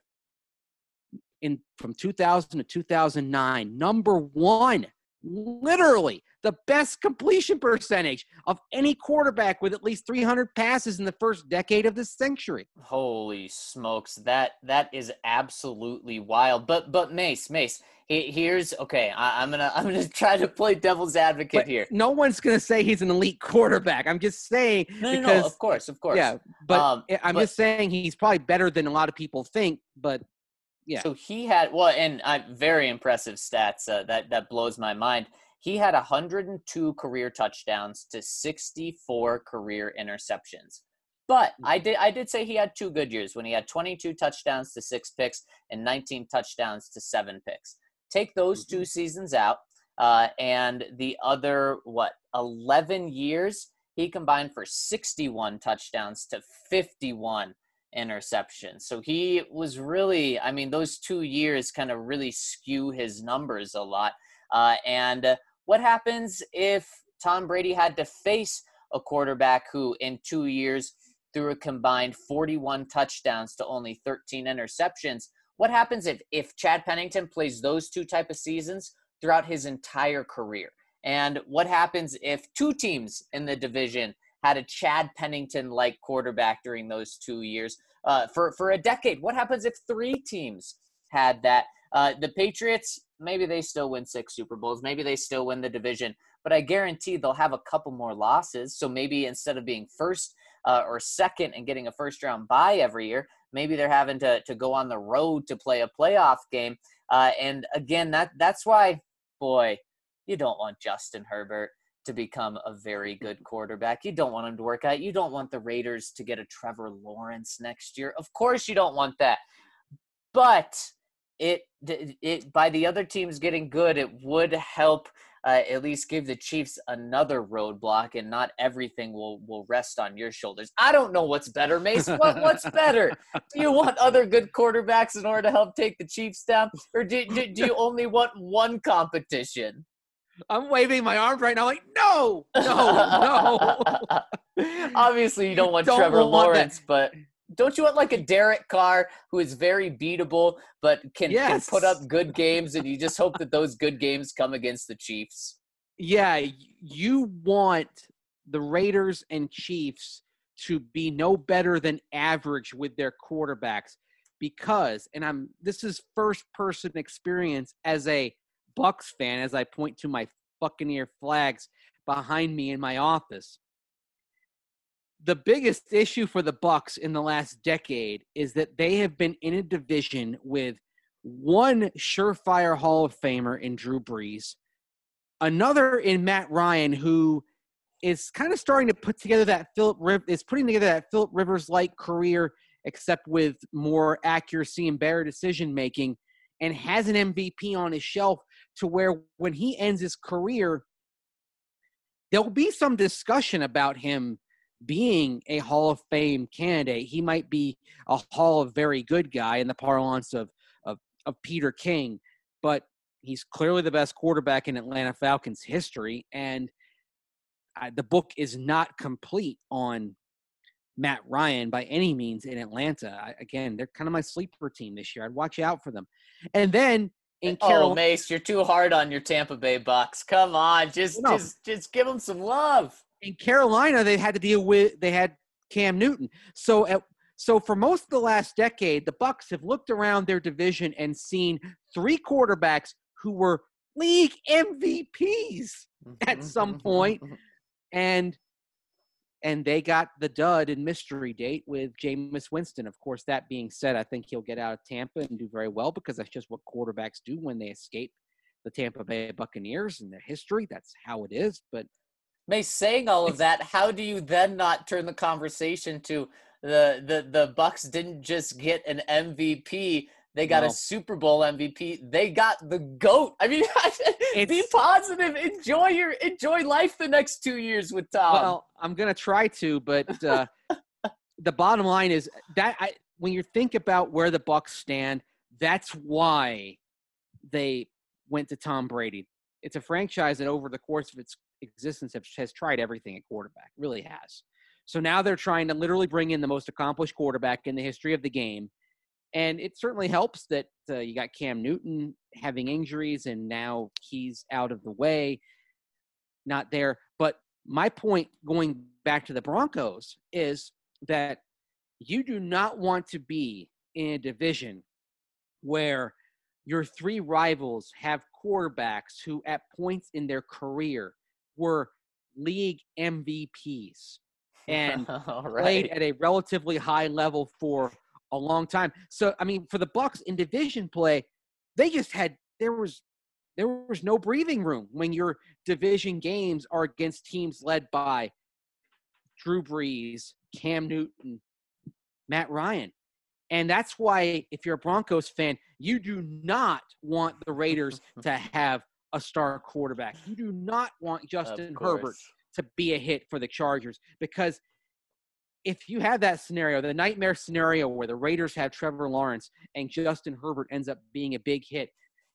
In from two thousand to two thousand nine, number one, literally the best completion percentage of any quarterback with at least three hundred passes in the first decade of this century. Holy smokes, that that is absolutely wild. But but Mace, Mace, he, here's okay. I, I'm gonna I'm gonna try to play devil's advocate But here. no one's gonna say he's an elite quarterback. I'm just saying No, no, because no, of course, of course. yeah, but Um, I'm but- just saying he's probably better than a lot of people think. But yeah. So he had well, and uh, very impressive stats. Uh, that that blows my mind. He had one hundred two career touchdowns to sixty-four career interceptions. But I did I did say he had two good years when he had twenty-two touchdowns to six picks and nineteen touchdowns to seven picks. Take those Mm-hmm. two seasons out, uh, and the other what eleven years he combined for sixty-one touchdowns to fifty-one interceptions. So he was really, I mean, those two years kind of really skew his numbers a lot. Uh, and uh, what happens if Tom Brady had to face a quarterback who in two years threw a combined forty-one touchdowns to only thirteen interceptions? What happens if, if Chad Pennington plays those two type of seasons throughout his entire career? And what happens if two teams in the division had a Chad Pennington-like quarterback during those two years uh, for, for a decade? What happens if three teams had that? Uh, the Patriots, maybe they still win six Super Bowls. Maybe they still win the division. But I guarantee they'll have a couple more losses. So maybe instead of being first uh, or second and getting a first-round bye every year, maybe they're having to, to go on the road to play a playoff game. Uh, and, again, that that's why, boy, you don't want Justin Herbert to become a very good quarterback. You don't want him to work out. You don't want the Raiders to get a Trevor Lawrence next year. Of course you don't want that. But it, it by the other teams getting good, it would help uh, at least give the Chiefs another roadblock, and not everything will, will rest on your shoulders. I don't know what's better, Mace. What what's better? Do you want other good quarterbacks in order to help take the Chiefs down, or do, do, do you only want one competition? I'm waving my arms right now like, no, no, no. Obviously, you don't want Don't Trevor want Lawrence, that. but don't you want like a Derek Carr who is very beatable but can, Yes. can put up good games, and you just hope that those good games come against the Chiefs? Yeah, you want the Raiders and Chiefs to be no better than average with their quarterbacks because, and I'm this is first-person experience as a Bucs fan, as I point to my Buccaneer flags behind me in my office. The biggest issue for the Bucs in the last decade is that they have been in a division with one surefire Hall of Famer in Drew Brees, another in Matt Ryan, who is kind of starting to put together that Philip Riv- is putting together that Philip Rivers-like career, except with more accuracy and better decision making, and has an M V P on his shelf to where when he ends his career, there'll be some discussion about him being a Hall of Fame candidate. He might be a Hall of Very Good guy in the parlance of, of, of Peter King, but he's clearly the best quarterback in Atlanta Falcons history, and uh, the book is not complete on Matt Ryan by any means in Atlanta. I, again, they're kind of my sleeper team this year. I'd watch out for them. And then in Oh, Carolina, Mace, you're too hard on your Tampa Bay Bucks. Come on, just No. just just give them some love. in Carolina, they had to deal with they had Cam Newton. So at, so for most of the last decade, the Bucs have looked around their division and seen three quarterbacks who were league M V Ps at some point, and and they got the dud in mystery date with Jameis Winston. Of course, that being said, I think he'll get out of Tampa and do very well because that's just what quarterbacks do when they escape the Tampa Bay Buccaneers and their history. That's how it is. But Mace, saying all of that, how do you then not turn the conversation to the the the Bucs didn't just get an M V P? They got No. a Super Bowl M V P. They got the GOAT. I mean, be It's- positive. Enjoy your enjoy life the next two years with Tom. Well, I'm going to try to, but uh, the bottom line is that I, when you think about where the Bucs stand, that's why they went to Tom Brady. It's a franchise that over the course of its existence has, has tried everything at quarterback, really has. So now they're trying to literally bring in the most accomplished quarterback in the history of the game. And it certainly helps that uh, you got Cam Newton having injuries and now he's out of the way, not there. But my point going back to the Broncos is that you do not want to be in a division where your three rivals have quarterbacks who at points in their career were league M V Ps and All played right. at a relatively high level for a long time. So, I mean, for the Bucs in division play, they just had there was there was no breathing room when your division games are against teams led by Drew Brees, Cam Newton, Matt Ryan. And that's why if you're a Broncos fan, you do not want the Raiders to have a star quarterback. You do not want Justin Of course. Herbert to be a hit for the Chargers, because if you have that scenario, the nightmare scenario where the Raiders have Trevor Lawrence and Justin Herbert ends up being a big hit,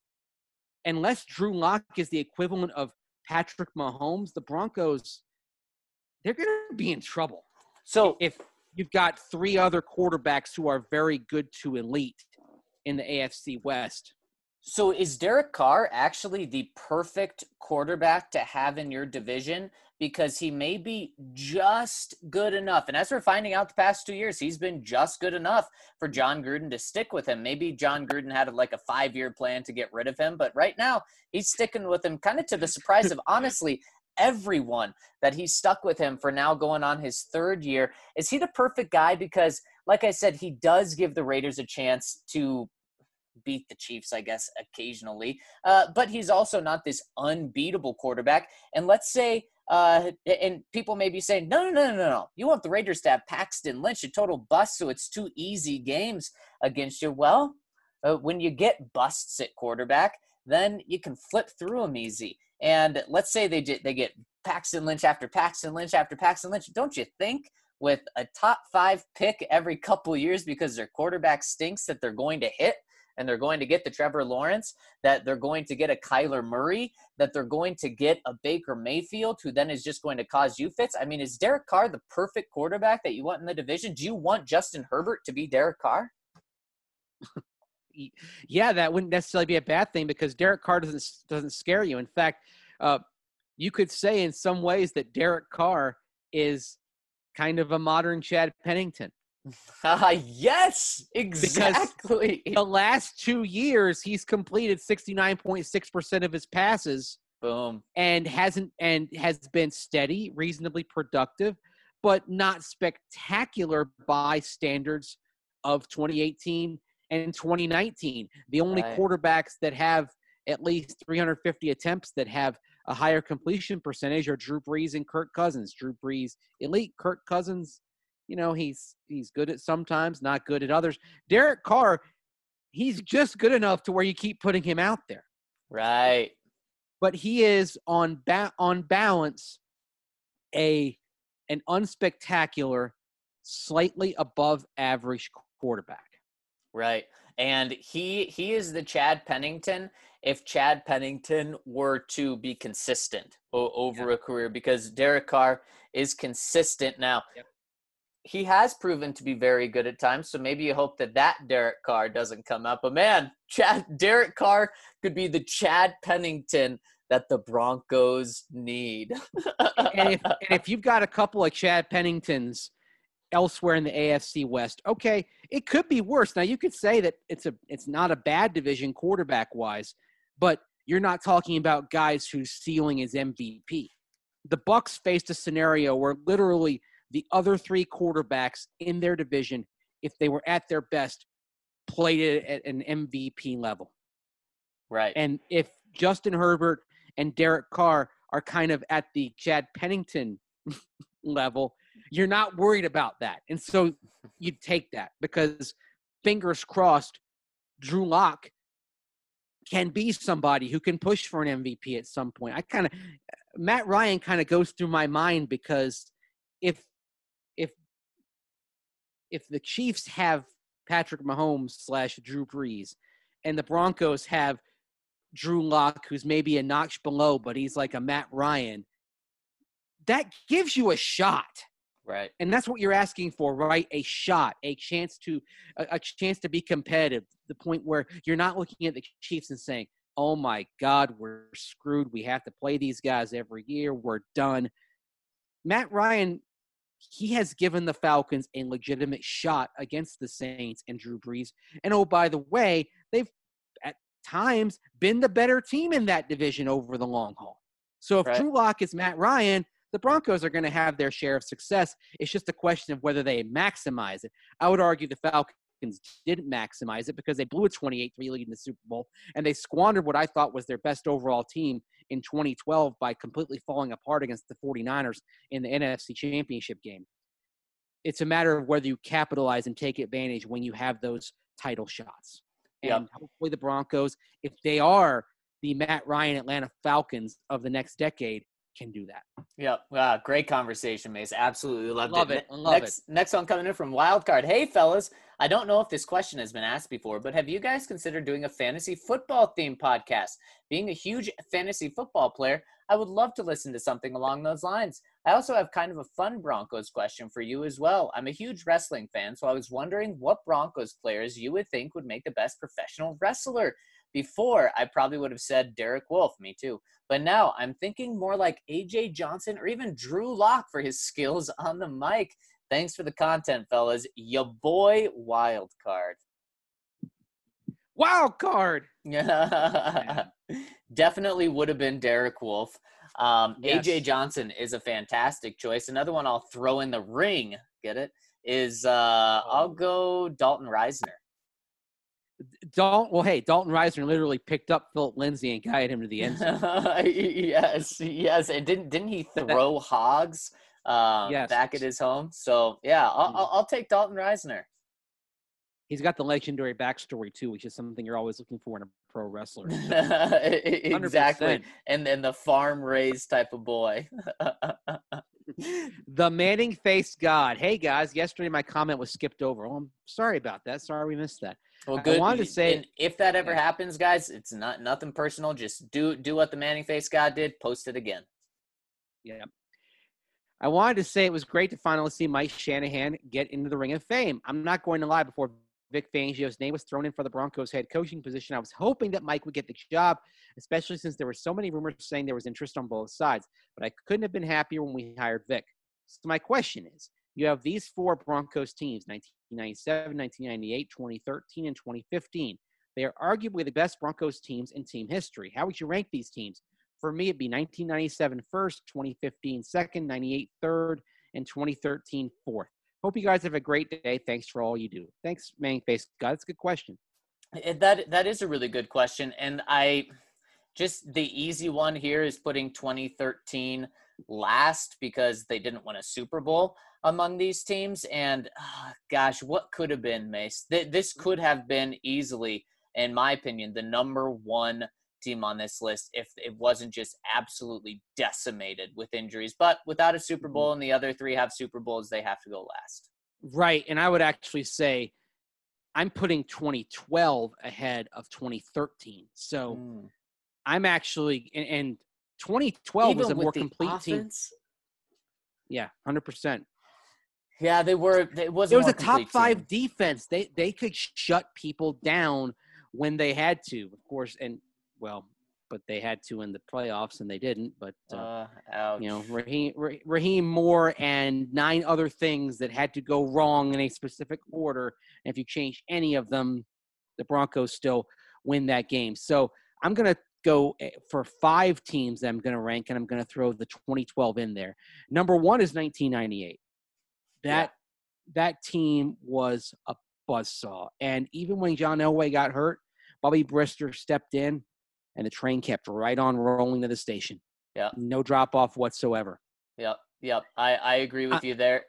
unless Drew Lock is the equivalent of Patrick Mahomes, the Broncos, they're going to be in trouble. So If you've got three other quarterbacks who are very good to elite in the A F C West. So is Derek Carr actually the perfect quarterback to have in your division? Because he may be just good enough. And as we're finding out the past two years, he's been just good enough for John Gruden to stick with him. Maybe John Gruden had like a five-year plan to get rid of him. But right now, he's sticking with him kind of to the surprise of, honestly, everyone that he's stuck with him for now going on his third year. Is he the perfect guy? Because, like I said, he does give the Raiders a chance to beat the Chiefs, I guess, occasionally. Uh, but he's also not this unbeatable quarterback. And let's say, uh, and people may be saying, no, no, no, no, no. You want the Raiders to have Paxton Lynch, a total bust, so it's two easy games against you. Well, Uh, when you get busts at quarterback, then you can flip through them easy. And let's say they get, they get Paxton Lynch after Paxton Lynch after Paxton Lynch. Don't you think with a top five pick every couple years because their quarterback stinks that they're going to hit and they're going to get the Trevor Lawrence, that they're going to get a Kyler Murray, that they're going to get a Baker Mayfield who then is just going to cause you fits? I mean, is Derek Carr the perfect quarterback that you want in the division? Do you want Justin Herbert to be Derek Carr? Yeah, that wouldn't necessarily be a bad thing because Derek Carr doesn't doesn't scare you. In fact, uh, you could say in some ways that Derek Carr is kind of a modern Chad Pennington. Uh, yes, exactly. Because the last two years, he's completed sixty-nine point six percent of his passes. Boom. And hasn't and has been steady, reasonably productive, but not spectacular by standards of twenty eighteen and twenty nineteen. The only Right. quarterbacks that have at least three hundred fifty attempts that have a higher completion percentage are Drew Brees and Kirk Cousins. Drew Brees, elite. Kirk Cousins, you know, he's he's good at sometimes, not good at others. Derek Carr, he's just good enough to where you keep putting him out there. Right. But he is on ba- on balance a an unspectacular, slightly above average quarterback. Right. And he he is the Chad Pennington if Chad Pennington were to be consistent o- over Yeah. a career, because Derek Carr is consistent now. Yep. He has proven to be very good at times, so maybe you hope that that Derek Carr doesn't come up. But man, Chad Derek Carr could be the Chad Pennington that the Broncos need. and, if, and if you've got a couple of Chad Penningtons elsewhere in the A F C West, okay, it could be worse. Now you could say that it's a it's not a bad division quarterback wise, but you're not talking about guys whose ceiling is M V P. The Bucs faced a scenario where literally the other three quarterbacks in their division, if they were at their best, played it at an M V P level. Right. And if Justin Herbert and Derek Carr are kind of at the Chad Pennington level, you're not worried about that. And so you take that because, fingers crossed, Drew Lock can be somebody who can push for an M V P at some point. I kind of – Matt Ryan kind of goes through my mind because if if if the Chiefs have Patrick Mahomes slash Drew Brees and the Broncos have Drew Lock, who's maybe a notch below, but he's like a Matt Ryan, that gives you a shot. Right. And that's what you're asking for, right? A shot, a chance to a, a chance to be competitive. The point where you're not looking at the Chiefs and saying, "Oh my God, we're screwed. We have to play these guys every year. We're done." Matt Ryan, he has given the Falcons a legitimate shot against the Saints and Drew Brees. And oh, by the way, they've at times been the better team in that division over the long haul. So if Right. Drew Lock is Matt Ryan, the Broncos are going to have their share of success. It's just a question of whether they maximize it. I would argue the Falcons didn't maximize it because they blew a twenty-eight three lead in the Super Bowl, and they squandered what I thought was their best overall team in twenty twelve by completely falling apart against the 49ers in the N F C Championship game. It's a matter of whether you capitalize and take advantage when you have those title shots. And Yep. hopefully the Broncos, if they are the Matt Ryan Atlanta Falcons of the next decade, can do that. Yep. Wow, great conversation, Mace. Absolutely loved Love it. it. I love next, next one coming in from Wildcard. Hey, fellas. I don't know if this question has been asked before, but have you guys considered doing a fantasy football themed podcast? Being a huge fantasy football player, I would love to listen to something along those lines. I also have kind of a fun Broncos question for you as well. I'm a huge wrestling fan, so I was wondering what Broncos players you would think would make the best professional wrestler. Before, I probably would have said Derek Wolfe, me too. But now I'm thinking more like A J Johnson or even Drew Lock for his skills on the mic. Thanks for the content, fellas. Ya boy Wildcard. Wild card. Yeah. Definitely would have been Derek Wolfe. Um, Yes. A J Johnson is a fantastic choice. Another one I'll throw in the ring, get it, is uh, I'll go Dalton Reisner. Dalton, well, hey, Dalton Reisner literally picked up Philip Lindsay and guided him to the end zone. yes, yes. And didn't didn't he throw hogs um, Yes. back at his home? So, yeah, I'll, I'll, I'll take Dalton Reisner. He's got the legendary backstory too, which is something you're always looking for in a pro wrestler. So, exactly. one hundred percent. And then the farm raised type of boy. The Manning faced God. Hey guys, yesterday my comment was skipped over. Oh, I'm sorry about that. Sorry we missed that. Well, good. I wanted to say, and if that ever yeah. happens, guys, it's not nothing personal. Just do do what the Manning faced God did. Post it again. Yeah. I wanted to say it was great to finally see Mike Shanahan get into the Ring of Fame. I'm not going to lie. Before Vic Fangio's name was thrown in for the Broncos head coaching position, I was hoping that Mike would get the job, especially since there were so many rumors saying there was interest on both sides. But I couldn't have been happier when we hired Vic. So my question is, you have these four Broncos teams, nineteen ninety-seven, nineteen ninety-eight, twenty thirteen, and twenty fifteen. They are arguably the best Broncos teams in team history. How would you rank these teams? For me, it'd be nineteen ninety-seven first, twenty fifteen second, ninety-eight third, and twenty thirteen fourth. Hope you guys have a great day. Thanks for all you do. Thanks, Manning Face God. That's a good question. That that is a really good question, and I just the easy one here is putting twenty thirteen last because they didn't win a Super Bowl among these teams. And oh, gosh, what could have been, Mace? This could have been easily, in my opinion, the number one team on this list if it wasn't just absolutely decimated with injuries. But without a Super Bowl and the other three have Super Bowls, they have to go last. Right, and I would actually say I'm putting twenty twelve ahead of twenty thirteen. So mm. I'm actually and, and twenty twelve Even was a more the complete offense? team. Yeah, one hundred percent. Yeah, they were. It was. It was a top team. five defense. They they could shut people down when they had to, of course, and well, but they had to in the playoffs, and they didn't. But uh, uh, you know, Raheem Raheem Moore and nine other things that had to go wrong in a specific order. And if you change any of them, the Broncos still win that game. So I'm gonna go for five teams that I'm going to rank, and I'm going to throw the twenty twelve in there. Number one is nineteen ninety-eight. That yeah. that team was a buzzsaw. And even when John Elway got hurt, Bobby Brister stepped in, and the train kept right on rolling to the station. Yeah. No drop-off whatsoever. Yep, yep. I, I agree with uh, you there.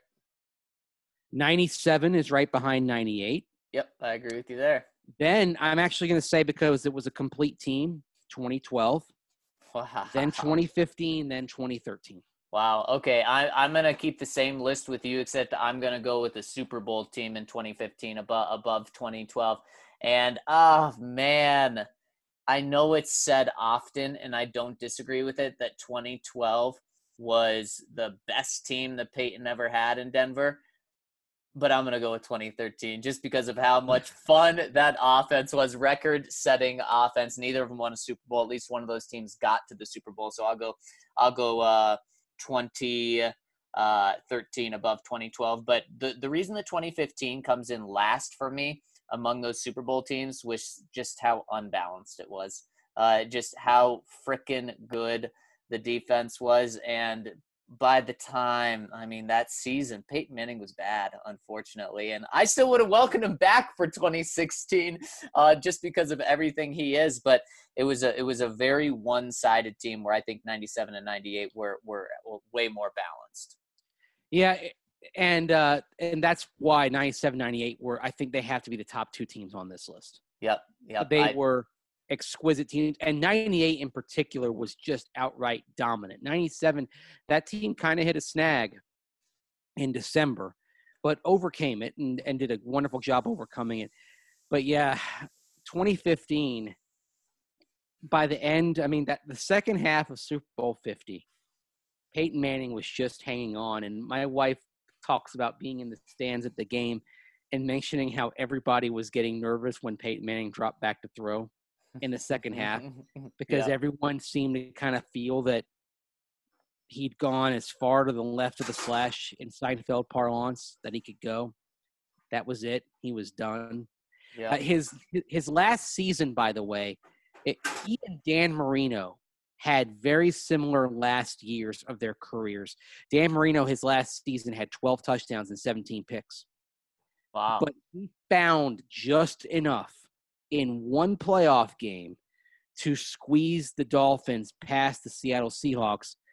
ninety-seven is right behind ninety-eight. Yep, I agree with you there. Then I'm actually going to say, because it was a complete team, twenty twelve, wow. Then twenty fifteen, then twenty thirteen. Wow. Okay, I, I'm going to keep the same list with you, except I'm going to go with the Super Bowl team in twenty fifteen above, above twenty twelve. And, oh, man, I know it's said often, and I don't disagree with it, that twenty twelve was the best team that Peyton ever had in Denver. But I'm going to go with twenty thirteen just because of how much fun that offense was. Record-setting offense. Neither of them won a Super Bowl. At least one of those teams got to the Super Bowl. So I'll go I'll go uh, twenty thirteen above twenty twelve. But the, the reason that twenty fifteen comes in last for me among those Super Bowl teams was just how unbalanced it was. Uh, just how freaking good the defense was. And by the time, I mean, that season, Peyton Manning was bad, unfortunately. And I still would have welcomed him back for twenty sixteen uh, just because of everything he is. But it was a it was a very one-sided team where I think ninety-seven and ninety-eight were, were way more balanced. Yeah, and uh, and that's why ninety-seven, ninety-eight were, I think they have to be the top two teams on this list. Yep, yep. They I, were exquisite teams, and ninety-eight in particular was just outright dominant. ninety-seven, that team kind of hit a snag in December, but overcame it and, and did a wonderful job overcoming it. But yeah, twenty fifteen, by the end, I mean, that the second half of Super Bowl fifty, Peyton Manning was just hanging on, and my wife talks about being in the stands at the game and mentioning how everybody was getting nervous when Peyton Manning dropped back to throw in the second half, because yeah. everyone seemed to kind of feel that he'd gone as far to the left of the slash in Seinfeld parlance that he could go. That was it. He was done. Yeah. Uh, his his last season, by the way, it, he and Dan Marino had very similar last years of their careers. Dan Marino, his last season, had twelve touchdowns and seventeen picks. Wow. But he found just enough in one playoff game to squeeze the Dolphins past the Seattle Seahawks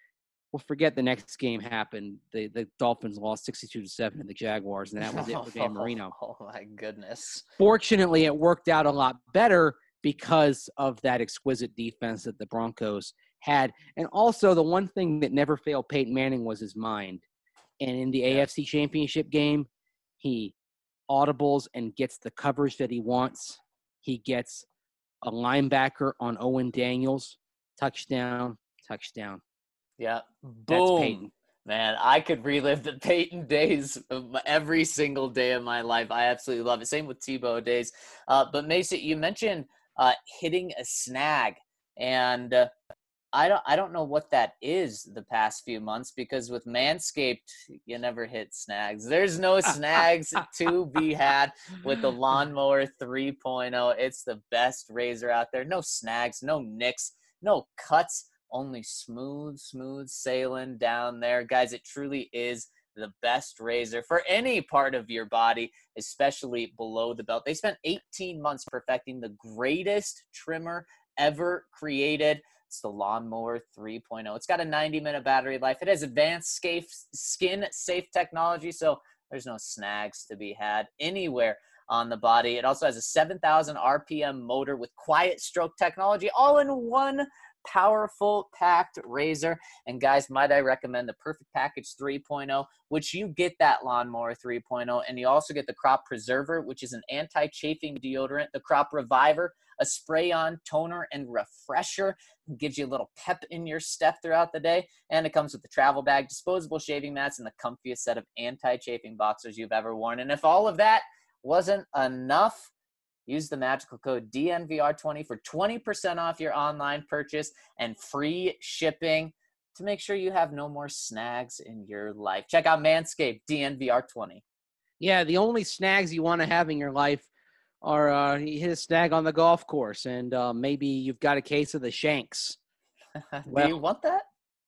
We'll forget the next game happened. The the Dolphins lost sixty-two to seven to the Jaguars, and that was it for Dan Marino. Oh, my goodness. Fortunately, it worked out a lot better because of that exquisite defense that the Broncos had. And also, the one thing that never failed Peyton Manning was his mind. And in the yeah. A F C Championship game, he audibles and gets the coverage that he wants. He gets a linebacker on Owen Daniels. Touchdown, touchdown. Yeah. Boom. That's Peyton. Man, I could relive the Peyton days every single day of my life. I absolutely love it. Same with Tebow days. Uh, but Mason, you mentioned uh, hitting a snag. And uh, I don't I don't know what that is the past few months, because with Manscaped, you never hit snags. There's no snags to be had with the Lawnmower three point oh. It's the best razor out there. No snags, no nicks, no cuts. Only smooth, smooth sailing down there. Guys, it truly is the best razor for any part of your body, especially below the belt. They spent eighteen months perfecting the greatest trimmer ever created. It's the Lawnmower three point oh. It's got a ninety minute battery life. It has advanced skin safe technology, so there's no snags to be had anywhere on the body. It also has a seven thousand R P M motor with quiet stroke technology, all in one powerful packed razor. And guys, might I recommend the Perfect Package three point oh, which you get that Lawnmower three point oh, and you also get the Crop Preserver, which is an anti-chafing deodorant, the Crop Reviver, a spray-on toner and refresher. It gives you a little pep in your step throughout the day. And it comes with the travel bag, disposable shaving mats, and the comfiest set of anti-chafing boxers you've ever worn. And if all of that wasn't enough, use the magical code D N V R twenty for twenty percent off your online purchase and free shipping to make sure you have no more snags in your life. Check out Manscaped, D N V R twenty. Yeah, the only snags you want to have in your life are uh, you hit a snag on the golf course, and uh, maybe you've got a case of the shanks. Well, do you want that?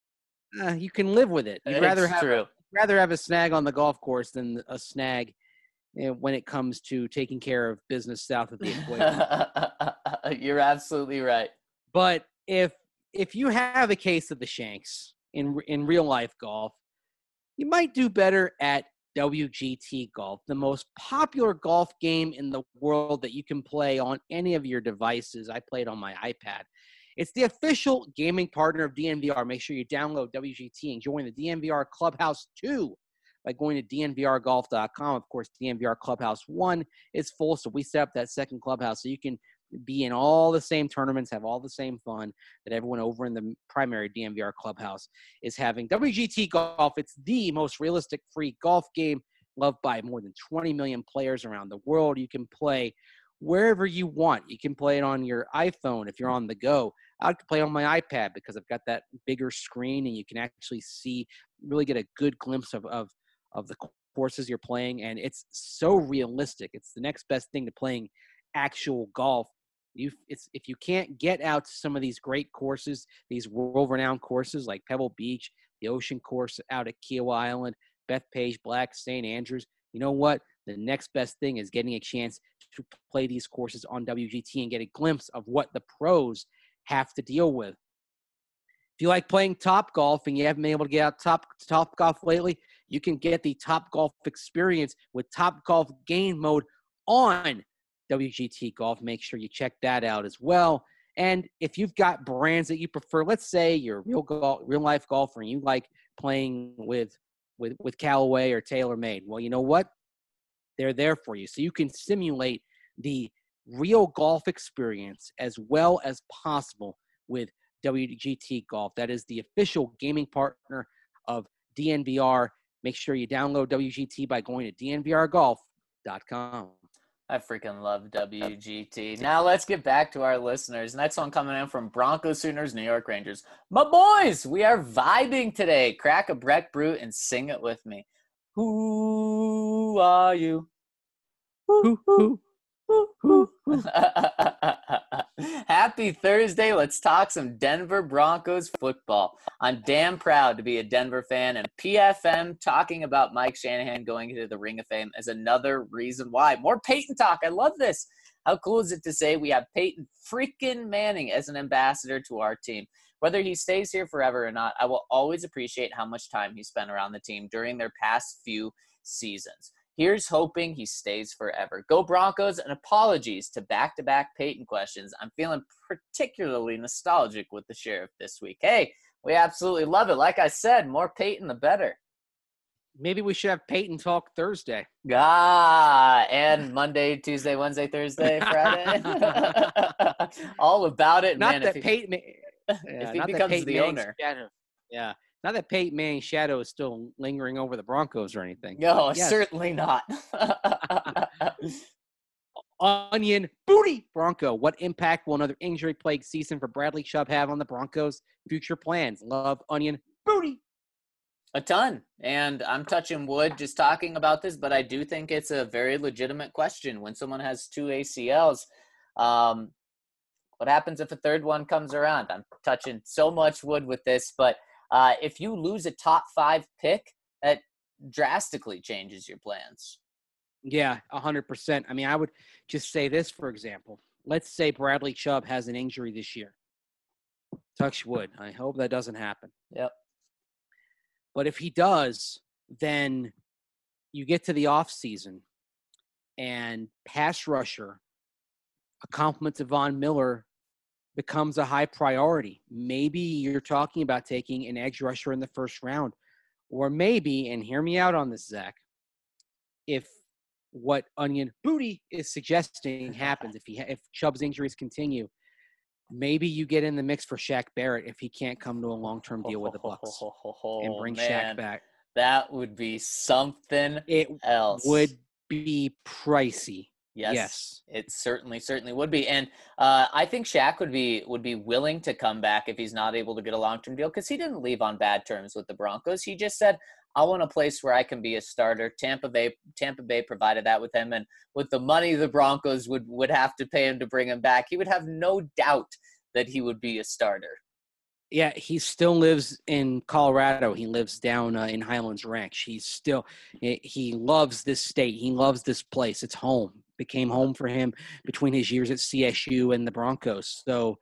Uh, you can live with it. You'd it's rather have true. rather have a snag on the golf course than a snag when it comes to taking care of business south of the equator. You're absolutely right. But if if you have a case of the shanks in in real life golf, you might do better at W G T Golf, the most popular golf game in the world that you can play on any of your devices. I played on my iPad. It's the official gaming partner of D N V R. Make sure you download W G T and join the D N V R Clubhouse two by going to D N V R golf dot com. Of course, D N V R Clubhouse one is full, so we set up that second clubhouse so you can be in all the same tournaments, have all the same fun that everyone over in the primary D N V R Clubhouse is having. W G T Golf, it's the most realistic free golf game loved by more than twenty million players around the world. You can play wherever you want. You can play it on your iPhone if you're on the go. I like to play on my iPad because I've got that bigger screen and you can actually see, really get a good glimpse of, of, of the courses you're playing. And it's so realistic. It's the next best thing to playing actual golf. You, it's, if you can't get out to some of these great courses, these world-renowned courses like Pebble Beach, the Ocean Course out at Kiowa Island, Bethpage, Black, Saint Andrews, you know what? The next best thing is getting a chance to play these courses on W G T and get a glimpse of what the pros have to deal with. If you like playing Top Golf and you haven't been able to get out top Top Golf lately, you can get the Top Golf experience with Top Golf Game Mode on W G T Golf. Make sure you check that out as well. And if you've got brands that you prefer, let's say you're a real golf, real life golfer and you like playing with with with Callaway or TaylorMade, well, you know what? They're there for you. So you can simulate the real golf experience as well as possible with W G T Golf. That is the official gaming partner of D N V R. Make sure you download W G T by going to D N V R golf dot com. I freaking love W G T. Now let's get back to our listeners. Next one coming in from Broncos, Sooners, New York Rangers. My boys, we are vibing today. Crack a Breck Brew and sing it with me. Who are you? Who, who, who, who, who. Happy Thursday. Let's talk some Denver Broncos football. I'm damn proud to be a Denver fan, and P F M talking about Mike Shanahan going into the Ring of Fame is another reason why. More Peyton talk. I love this. How cool is it to say we have Peyton freaking Manning as an ambassador to our team? Whether he stays here forever or not, I will always appreciate how much time he spent around the team during their past few seasons. Here's hoping he stays forever. Go Broncos, and apologies to back-to-back Peyton questions. I'm feeling particularly nostalgic with the Sheriff this week. Hey, we absolutely love it. Like I said, more Peyton, the better. Maybe we should have Peyton talk Thursday. Ah, and Monday, Tuesday, Wednesday, Thursday, Friday. All about it. Not man, that if he, Peyton, yeah, if he not becomes that Peyton the Manning's owner. Shadow, yeah, not that Peyton Manning's shadow is still lingering over the Broncos or anything. No, Yes. certainly not. Onion booty Bronco. What impact will another injury-plagued season for Bradley Chubb have on the Broncos' future plans? Love, Onion booty. A ton. And I'm touching wood just talking about this, but I do think it's a very legitimate question. When someone has two A C Ls, um, what happens if a third one comes around? I'm touching so much wood with this, but uh, if you lose a top five pick, that drastically changes your plans. Yeah, one hundred percent. I mean, I would just say this, for example. Let's say Bradley Chubb has an injury this year. Touch wood. I hope that doesn't happen. Yep. But if he does, then you get to the offseason and pass rusher, a compliment to Von Miller, becomes a high priority. Maybe you're talking about taking an edge rusher in the first round. Or maybe, and hear me out on this, Zach, if what Onion Booty is suggesting happens, if he if Chubb's injuries continue, maybe you get in the mix for Shaq Barrett if he can't come to a long-term deal with the Bucs and bring Man, Shaq back. That would be something It else. would be pricey. Yes, Yes. It certainly, certainly would be. And uh, I think Shaq would be would be willing to come back if he's not able to get a long-term deal, because he didn't leave on bad terms with the Broncos. He just said, I want a place where I can be a starter. Tampa Bay Tampa Bay provided that with him. And with the money the Broncos would, would have to pay him to bring him back, he would have no doubt that he would be a starter. Yeah, he still lives in Colorado. He lives down uh, in Highlands Ranch. He's still he loves this state. He loves this place. It's home. Became home for him between his years at C S U and the Broncos. So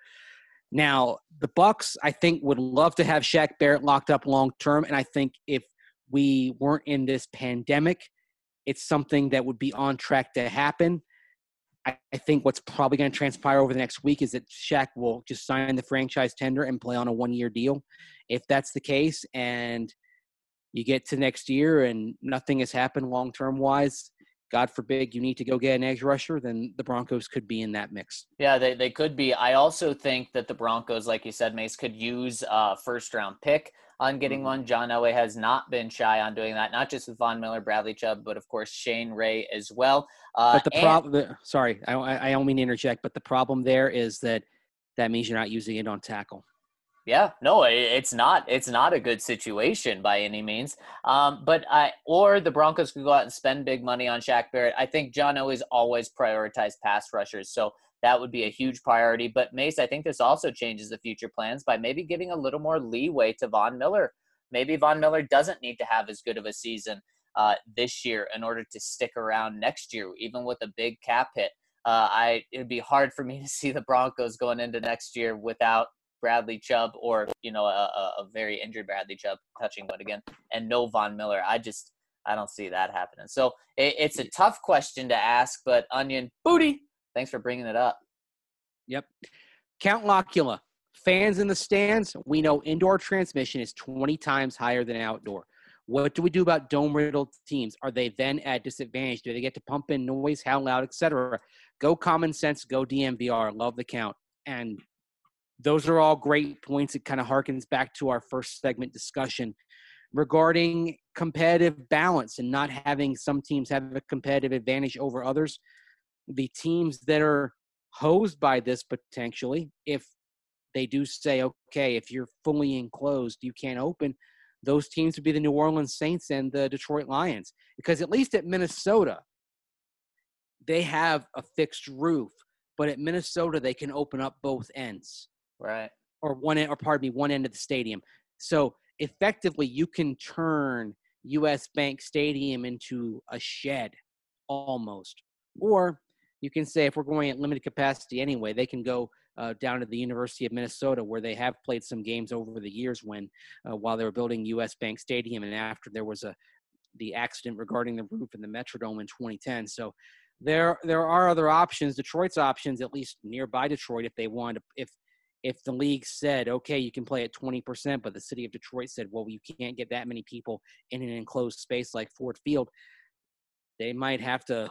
now the Bucs, I think, would love to have Shaq Barrett locked up long term. And I think if we weren't in this pandemic, it's something that would be on track to happen. I, I think what's probably going to transpire over the next week is that Shaq will just sign the franchise tender and play on a one-year deal. If that's the case, and you get to next year and nothing has happened long-term wise, God forbid you need to go get an edge rusher, then the Broncos could be in that mix. Yeah, they, they could be. I also think that the Broncos, like you said, Mace, could use a first-round pick on getting Mm-hmm. one. John Elway has not been shy on doing that, not just with Von Miller, Bradley Chubb, but, of course, Shane Ray as well. Uh, But the and- problem – sorry, I, I don't mean to interject, but the problem there is that that means you're not using it on tackle. Yeah, no, it, it's not. It's not a good situation by any means. Um, but I or the Broncos could go out and spend big money on Shaq Barrett. I think John Elway's always prioritized pass rushers, so that would be a huge priority. But Mace, I think this also changes the future plans by maybe giving a little more leeway to Von Miller. Maybe Von Miller doesn't need to have as good of a season uh, this year in order to stick around next year, even with a big cap hit. Uh, I it'd be hard for me to see the Broncos going into next year without Bradley Chubb or, you know, a, a very injured Bradley Chubb, touching wood again, and no Von Miller. I just, I don't see that happening. So it, it's a tough question to ask, but Onion Booty, thanks for bringing it up. Yep. Count Locula. Fans in the stands, we know indoor transmission is twenty times higher than outdoor. What do we do about dome-riddled teams? Are they then at disadvantage? Do they get to pump in noise, how loud, et cetera? Go common sense, go D M V R. Love the count. And those are all great points. It kind of harkens back to our first segment discussion regarding competitive balance and not having some teams have a competitive advantage over others. The teams that are hosed by this potentially, if they do say, okay, if you're fully enclosed, you can't open, those teams would be the New Orleans Saints and the Detroit Lions. Because at least at Minnesota, they have a fixed roof. But at Minnesota, they can open up both ends. Right. Or one end, or pardon me, one end of the stadium. So effectively, you can turn U S Bank Stadium into a shed almost. Or you can say, if we're going at limited capacity anyway, they can go uh, down at the University of Minnesota, where they have played some games over the years when, uh, while they were building U S Bank Stadium, and after there was a the accident regarding the roof in the Metrodome in twenty ten. So there there are other options. Detroit's options, at least nearby Detroit, if they want to, if if the league said, okay, you can play at twenty percent, but the city of Detroit said, well, you can't get that many people in an enclosed space like Ford Field, they might have to,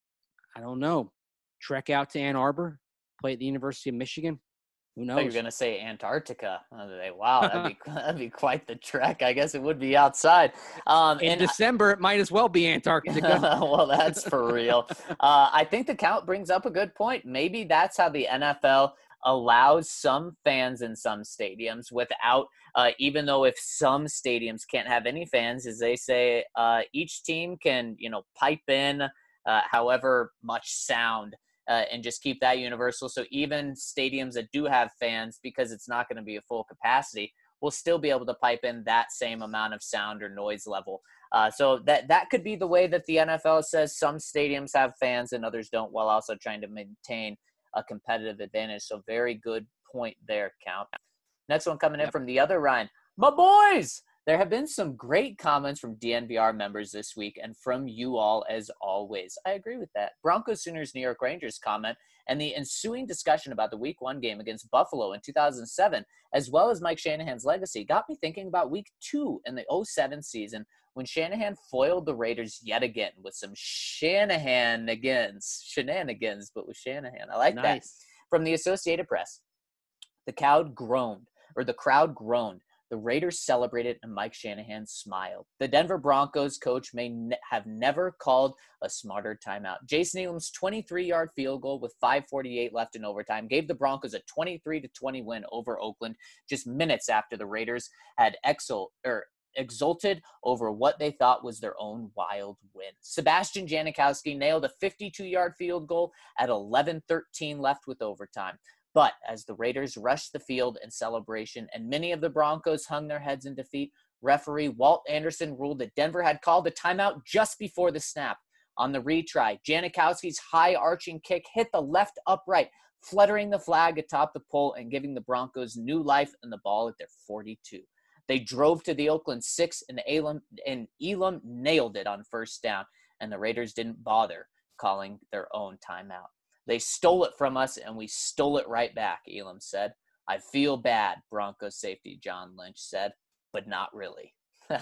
I don't know, trek out to Ann Arbor, play at the University of Michigan. Who knows? Oh, you're going to say Antarctica. Wow, that'd be, that'd be quite the trek. I guess it would be outside. Um, in and December, it might as well be Antarctica. Well, that's for real. Uh, I think the count brings up a good point. Maybe that's how the N F L allows some fans in some stadiums without, uh, even though if some stadiums can't have any fans, as they say, uh, each team can, you know, pipe in uh, however much sound uh, and just keep that universal. So even stadiums that do have fans, because it's not going to be a full capacity, will still be able to pipe in that same amount of sound or noise level. Uh, so that that could be the way that the N F L says some stadiums have fans and others don't, while also trying to maintain a competitive advantage. So very good point there, Count. Next one coming in Yep. from the other Ryan. My boys! There have been some great comments from D N V R members this week and from you all as always. I agree with that. Broncos, Sooners, New York Rangers comment and the ensuing discussion about the week one game against Buffalo in two thousand seven, as well as Mike Shanahan's legacy, got me thinking about week two in the oh seven season when Shanahan foiled the Raiders yet again with some Shanahanigans, shenanigans, but with Shanahan. I like Nice. that. From the Associated Press, the crowd groaned, or the crowd groaned. The Raiders celebrated and Mike Shanahan smiled. The Denver Broncos coach may ne- have never called a smarter timeout. Jason Elam's twenty-three-yard field goal with five forty-eight left in overtime gave the Broncos a twenty-three to twenty win over Oakland just minutes after the Raiders had exul- or exulted over what they thought was their own wild win. Sebastian Janikowski nailed a fifty-two-yard field goal at eleven thirteen left with overtime. But as the Raiders rushed the field in celebration and many of the Broncos hung their heads in defeat, referee Walt Anderson ruled that Denver had called a timeout just before the snap. On the retry, Janikowski's high arching kick hit the left upright, fluttering the flag atop the pole and giving the Broncos new life and the ball at their forty-two. They drove to the Oakland six, and Elam, and Elam nailed it on first down, and the Raiders didn't bother calling their own timeout. They stole it from us, and we stole it right back, Elam said. I feel bad, Broncos safety John Lynch said, but not really.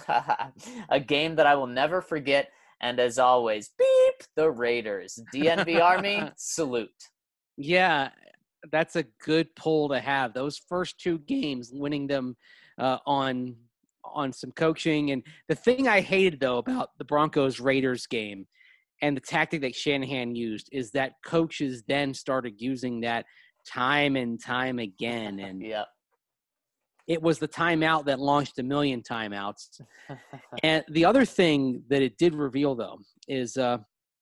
A game that I will never forget, and as always, beep, the Raiders. D N V Army, salute. Yeah, that's a good pull to have. Those first two games, winning them uh, on on some coaching. And the thing I hated, though, about the Broncos-Raiders game and the tactic that Shanahan used is that coaches then started using that time and time again. And yeah. It was the timeout that launched a million timeouts. And the other thing that it did reveal, though, is uh,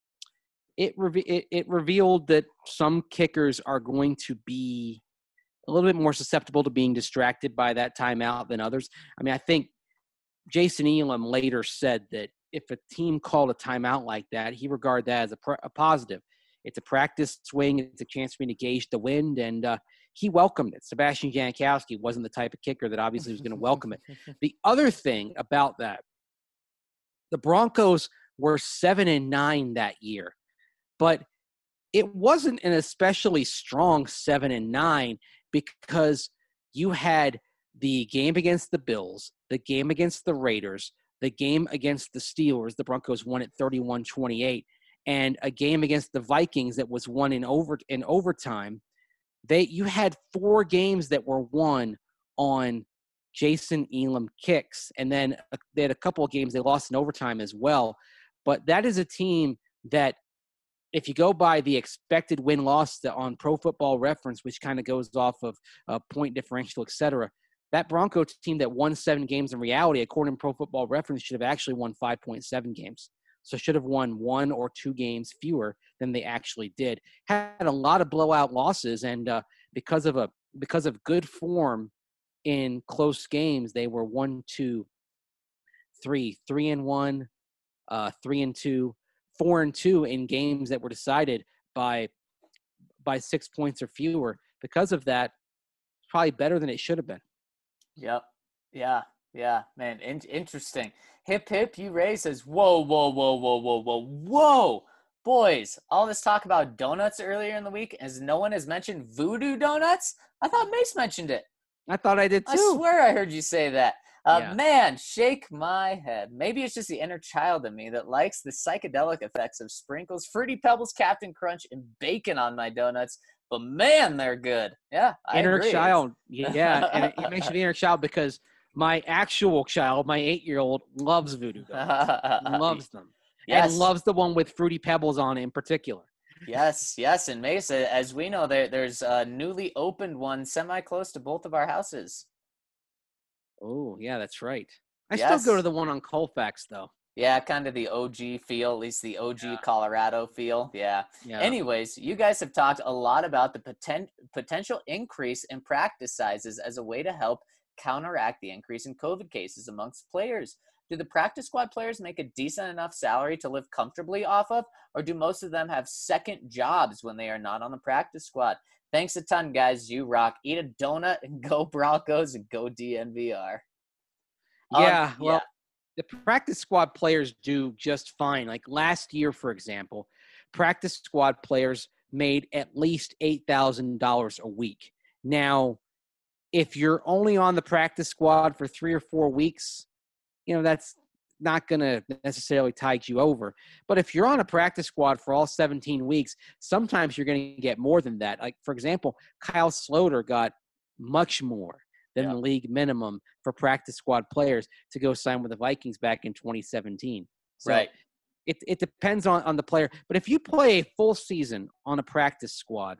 it, re- it it revealed that some kickers are going to be a little bit more susceptible to being distracted by that timeout than others. I mean, I think Jason Elam later said that if a team called a timeout like that, he regarded that as a, pr- a positive. It's a practice swing. It's a chance for me to gauge the wind, and uh, he welcomed it. Sebastian Janikowski wasn't the type of kicker that obviously was going to welcome it. The other thing about that, the Broncos were seven and nine that year, but it wasn't an especially strong seven and nine because you had the game against the Bills, the game against the Raiders, the game against the Steelers, the Broncos won at thirty-one twenty-eight, and a game against the Vikings that was won in over in overtime. They you had four games that were won on Jason Elam kicks, and then they had a couple of games they lost in overtime as well. But that is a team that, if you go by the expected win-loss on Pro Football Reference, which kind of goes off of uh, point differential, et cetera, that Broncos team that won seven games in reality, according to Pro Football Reference, should have actually won five point seven games. So should have won one or two games fewer than they actually did. Had a lot of blowout losses, and uh, because of a because of good form in close games, they were one, two, three, three and one, uh, three and two, four and two in games that were decided by by six points or fewer. because of that, it's probably better than it should have been. Yep. Yeah. Yeah. Man, in- interesting. Hip hip, you Ray says, whoa, whoa, whoa, whoa, whoa, whoa, whoa. Boys, all this talk about donuts earlier in the week, as no one has mentioned Voodoo Donuts? I thought Mace mentioned it. I thought I did too. I swear I heard you say that. Uh, Yeah. Man, shake my head. Maybe it's just the inner child in me that likes the psychedelic effects of sprinkles, Fruity Pebbles, Captain Crunch, and bacon on my donuts. But man, they're good. Yeah, I Inner agree. child. Yeah. And you mentioned inner child because my actual child, my eight-year-old, loves Voodoo Donuts. Loves them. Yes. And loves the one with Fruity Pebbles on it in particular. Yes, yes. And Mesa, as we know, there there's a newly opened one semi-close to both of our houses. Oh, yeah, that's right. I Yes. still go to the one on Colfax, though. Yeah, kind of the O G feel, at least the O G Yeah. Colorado feel. Yeah. Yeah. Anyways, you guys have talked a lot about the poten- potential increase in practice sizes as a way to help counteract the increase in COVID cases amongst players. Do the practice squad players make a decent enough salary to live comfortably off of, or do most of them have second jobs when they are not on the practice squad? Thanks a ton, guys. You rock. Eat a donut and go Broncos and go D N V R. Yeah, Um, well, yeah. the practice squad players do just fine. Like last year, for example, practice squad players made at least eight thousand dollars a week. Now, if you're only on the practice squad for three or four weeks, you know, that's not going to necessarily tide you over. But if you're on a practice squad for all seventeen weeks, sometimes you're going to get more than that. Like, for example, Kyle Sloter got much more than Yeah. the league minimum for practice squad players to go sign with the Vikings back in twenty seventeen. So Right. it, it depends on, on the player. But if you play a full season on a practice squad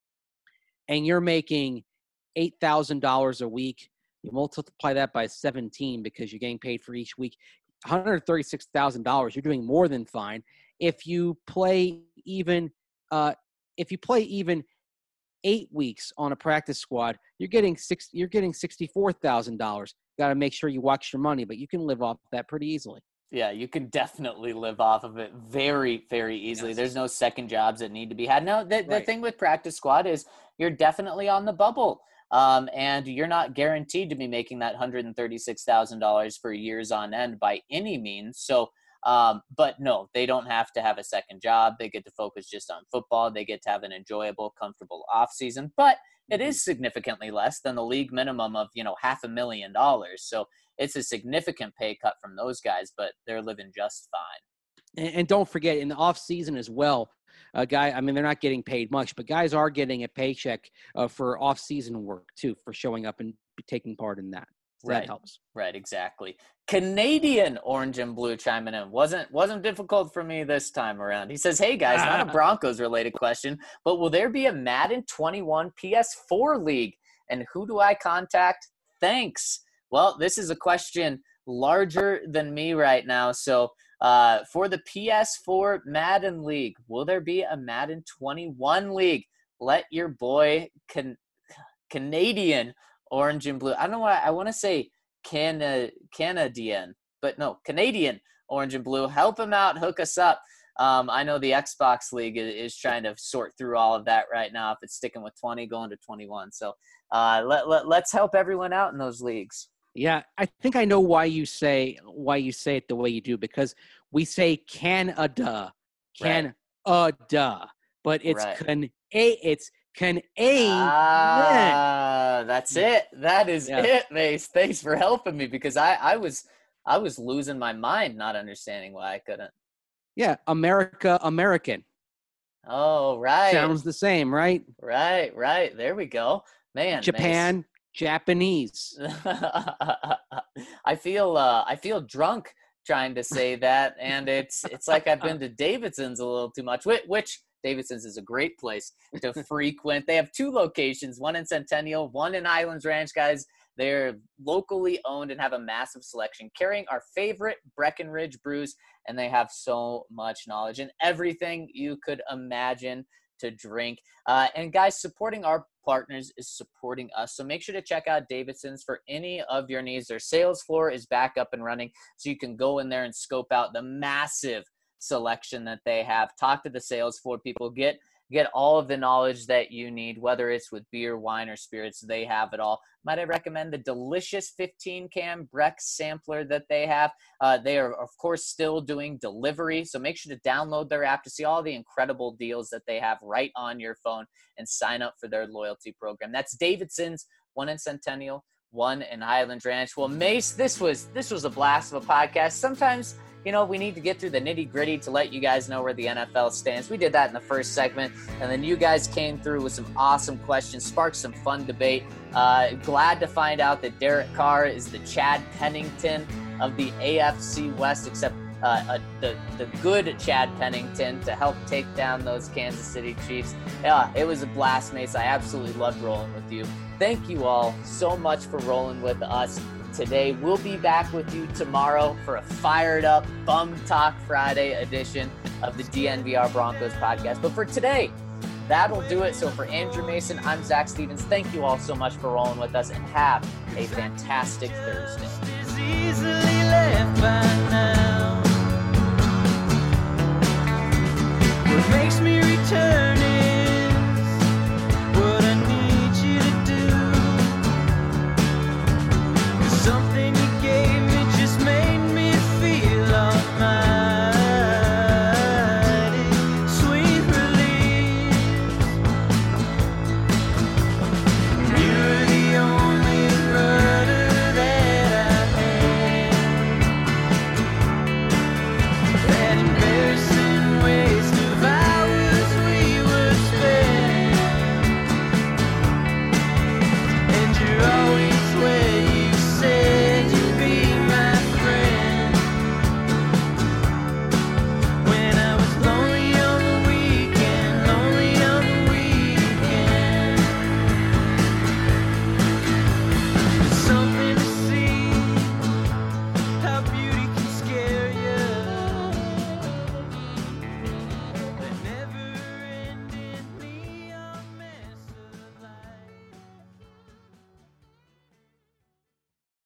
and you're making eight thousand dollars a week, you multiply that by seventeen because you're getting paid for each week, one hundred thirty-six thousand dollars. You're doing more than fine. If you play even, uh, if you play even eight weeks on a practice squad, you're getting six. You're getting sixty-four thousand dollars. Got to make sure you watch your money, but you can live off that pretty easily. Yeah, you can definitely live off of it very, very easily. Yes. There's no second jobs that need to be had. No, the, the Right. thing with practice squad is you're definitely on the bubble. Um, and you're not guaranteed to be making that one hundred thirty-six thousand dollars for years on end by any means. So, um, but no, they don't have to have a second job. They get to focus just on football. They get to have an enjoyable, comfortable off season, but it is significantly less than the league minimum of, you know, half a million dollars. So it's a significant pay cut from those guys, but they're living just fine. And, and don't forget, in the off season as well, a guy. I mean, they're not getting paid much, but guys are getting a paycheck uh, for off season work too, for showing up and taking part in that. So Right. That helps. Right, exactly. Canadian Orange and Blue chiming in. Wasn't wasn't difficult for me this time around. He says, hey guys, not a Broncos related question, but will there be a Madden twenty-one P S four league? And who do I contact? Thanks. Well, this is a question larger than me right now. So uh, for the P S four Madden League, will there be a Madden twenty-one league? Let your boy can Canadian Orange and Blue. I don't know why I want to say Cana Canadian, but no, Canadian Orange and Blue. Help him out. Hook us up. Um, I know the Xbox League is, is trying to sort through all of that right now. If it's sticking with twenty, going to twenty-one. So uh, let, let let's help everyone out in those leagues. Yeah, I think I know why you say why you say it the way you do, because we say Canada, Canada, but it's Right. can a it's can a Ah, that's it. That is Yeah. it, Mace. Thanks for helping me because I, I was I was losing my mind not understanding why I couldn't. yeah, America, American. Oh, right. Sounds the same, right? Right, right. There we go. Man, Mace. Japan, Japanese. I feel uh, I feel drunk trying to say that, and it's it's like I've been to Davidson's a little too much. Which, which Davidson's is a great place to frequent. They have two locations, one in Centennial, one in Islands Ranch, guys. They're locally owned and have a massive selection, carrying our favorite Breckenridge brews, and they have so much knowledge and everything you could imagine to drink. Uh, and guys, supporting our partners is supporting us. So make sure to check out Davidson's for any of your needs. Their sales floor is back up and running, so you can go in there and scope out the massive selection that they have. Talk to the sales floor people. Get get all of the knowledge that you need, whether it's with beer, wine, or spirits. They have it all. Might I recommend the delicious fifteen can Brex sampler that they have? Uh, they are, of course, still doing delivery, so make sure to download their app to see all the incredible deals that they have right on your phone and sign up for their loyalty program. That's Davidson's, one in Centennial, one in Highland Ranch. Well, Mace, this was this was a blast of a podcast. Sometimes, you know, we need to get through the nitty gritty to let you guys know where the N F L stands. We did that in the first segment, and then you guys came through with some awesome questions, sparked some fun debate. Uh, glad to find out that Derek Carr is the Chad Pennington of the A F C West, except uh, uh, the, the good Chad Pennington to help take down those Kansas City Chiefs. Yeah, it was a blast, Mace. I absolutely loved rolling with you. Thank you all so much for rolling with us today. We'll be back with you tomorrow for a fired up Bum Talk Friday edition of the D N V R Broncos podcast. But for today, that'll do it. So for Andrew Mason, I'm Zach Stevens. Thank you all so much for rolling with us, and have a fantastic Thursday. What makes me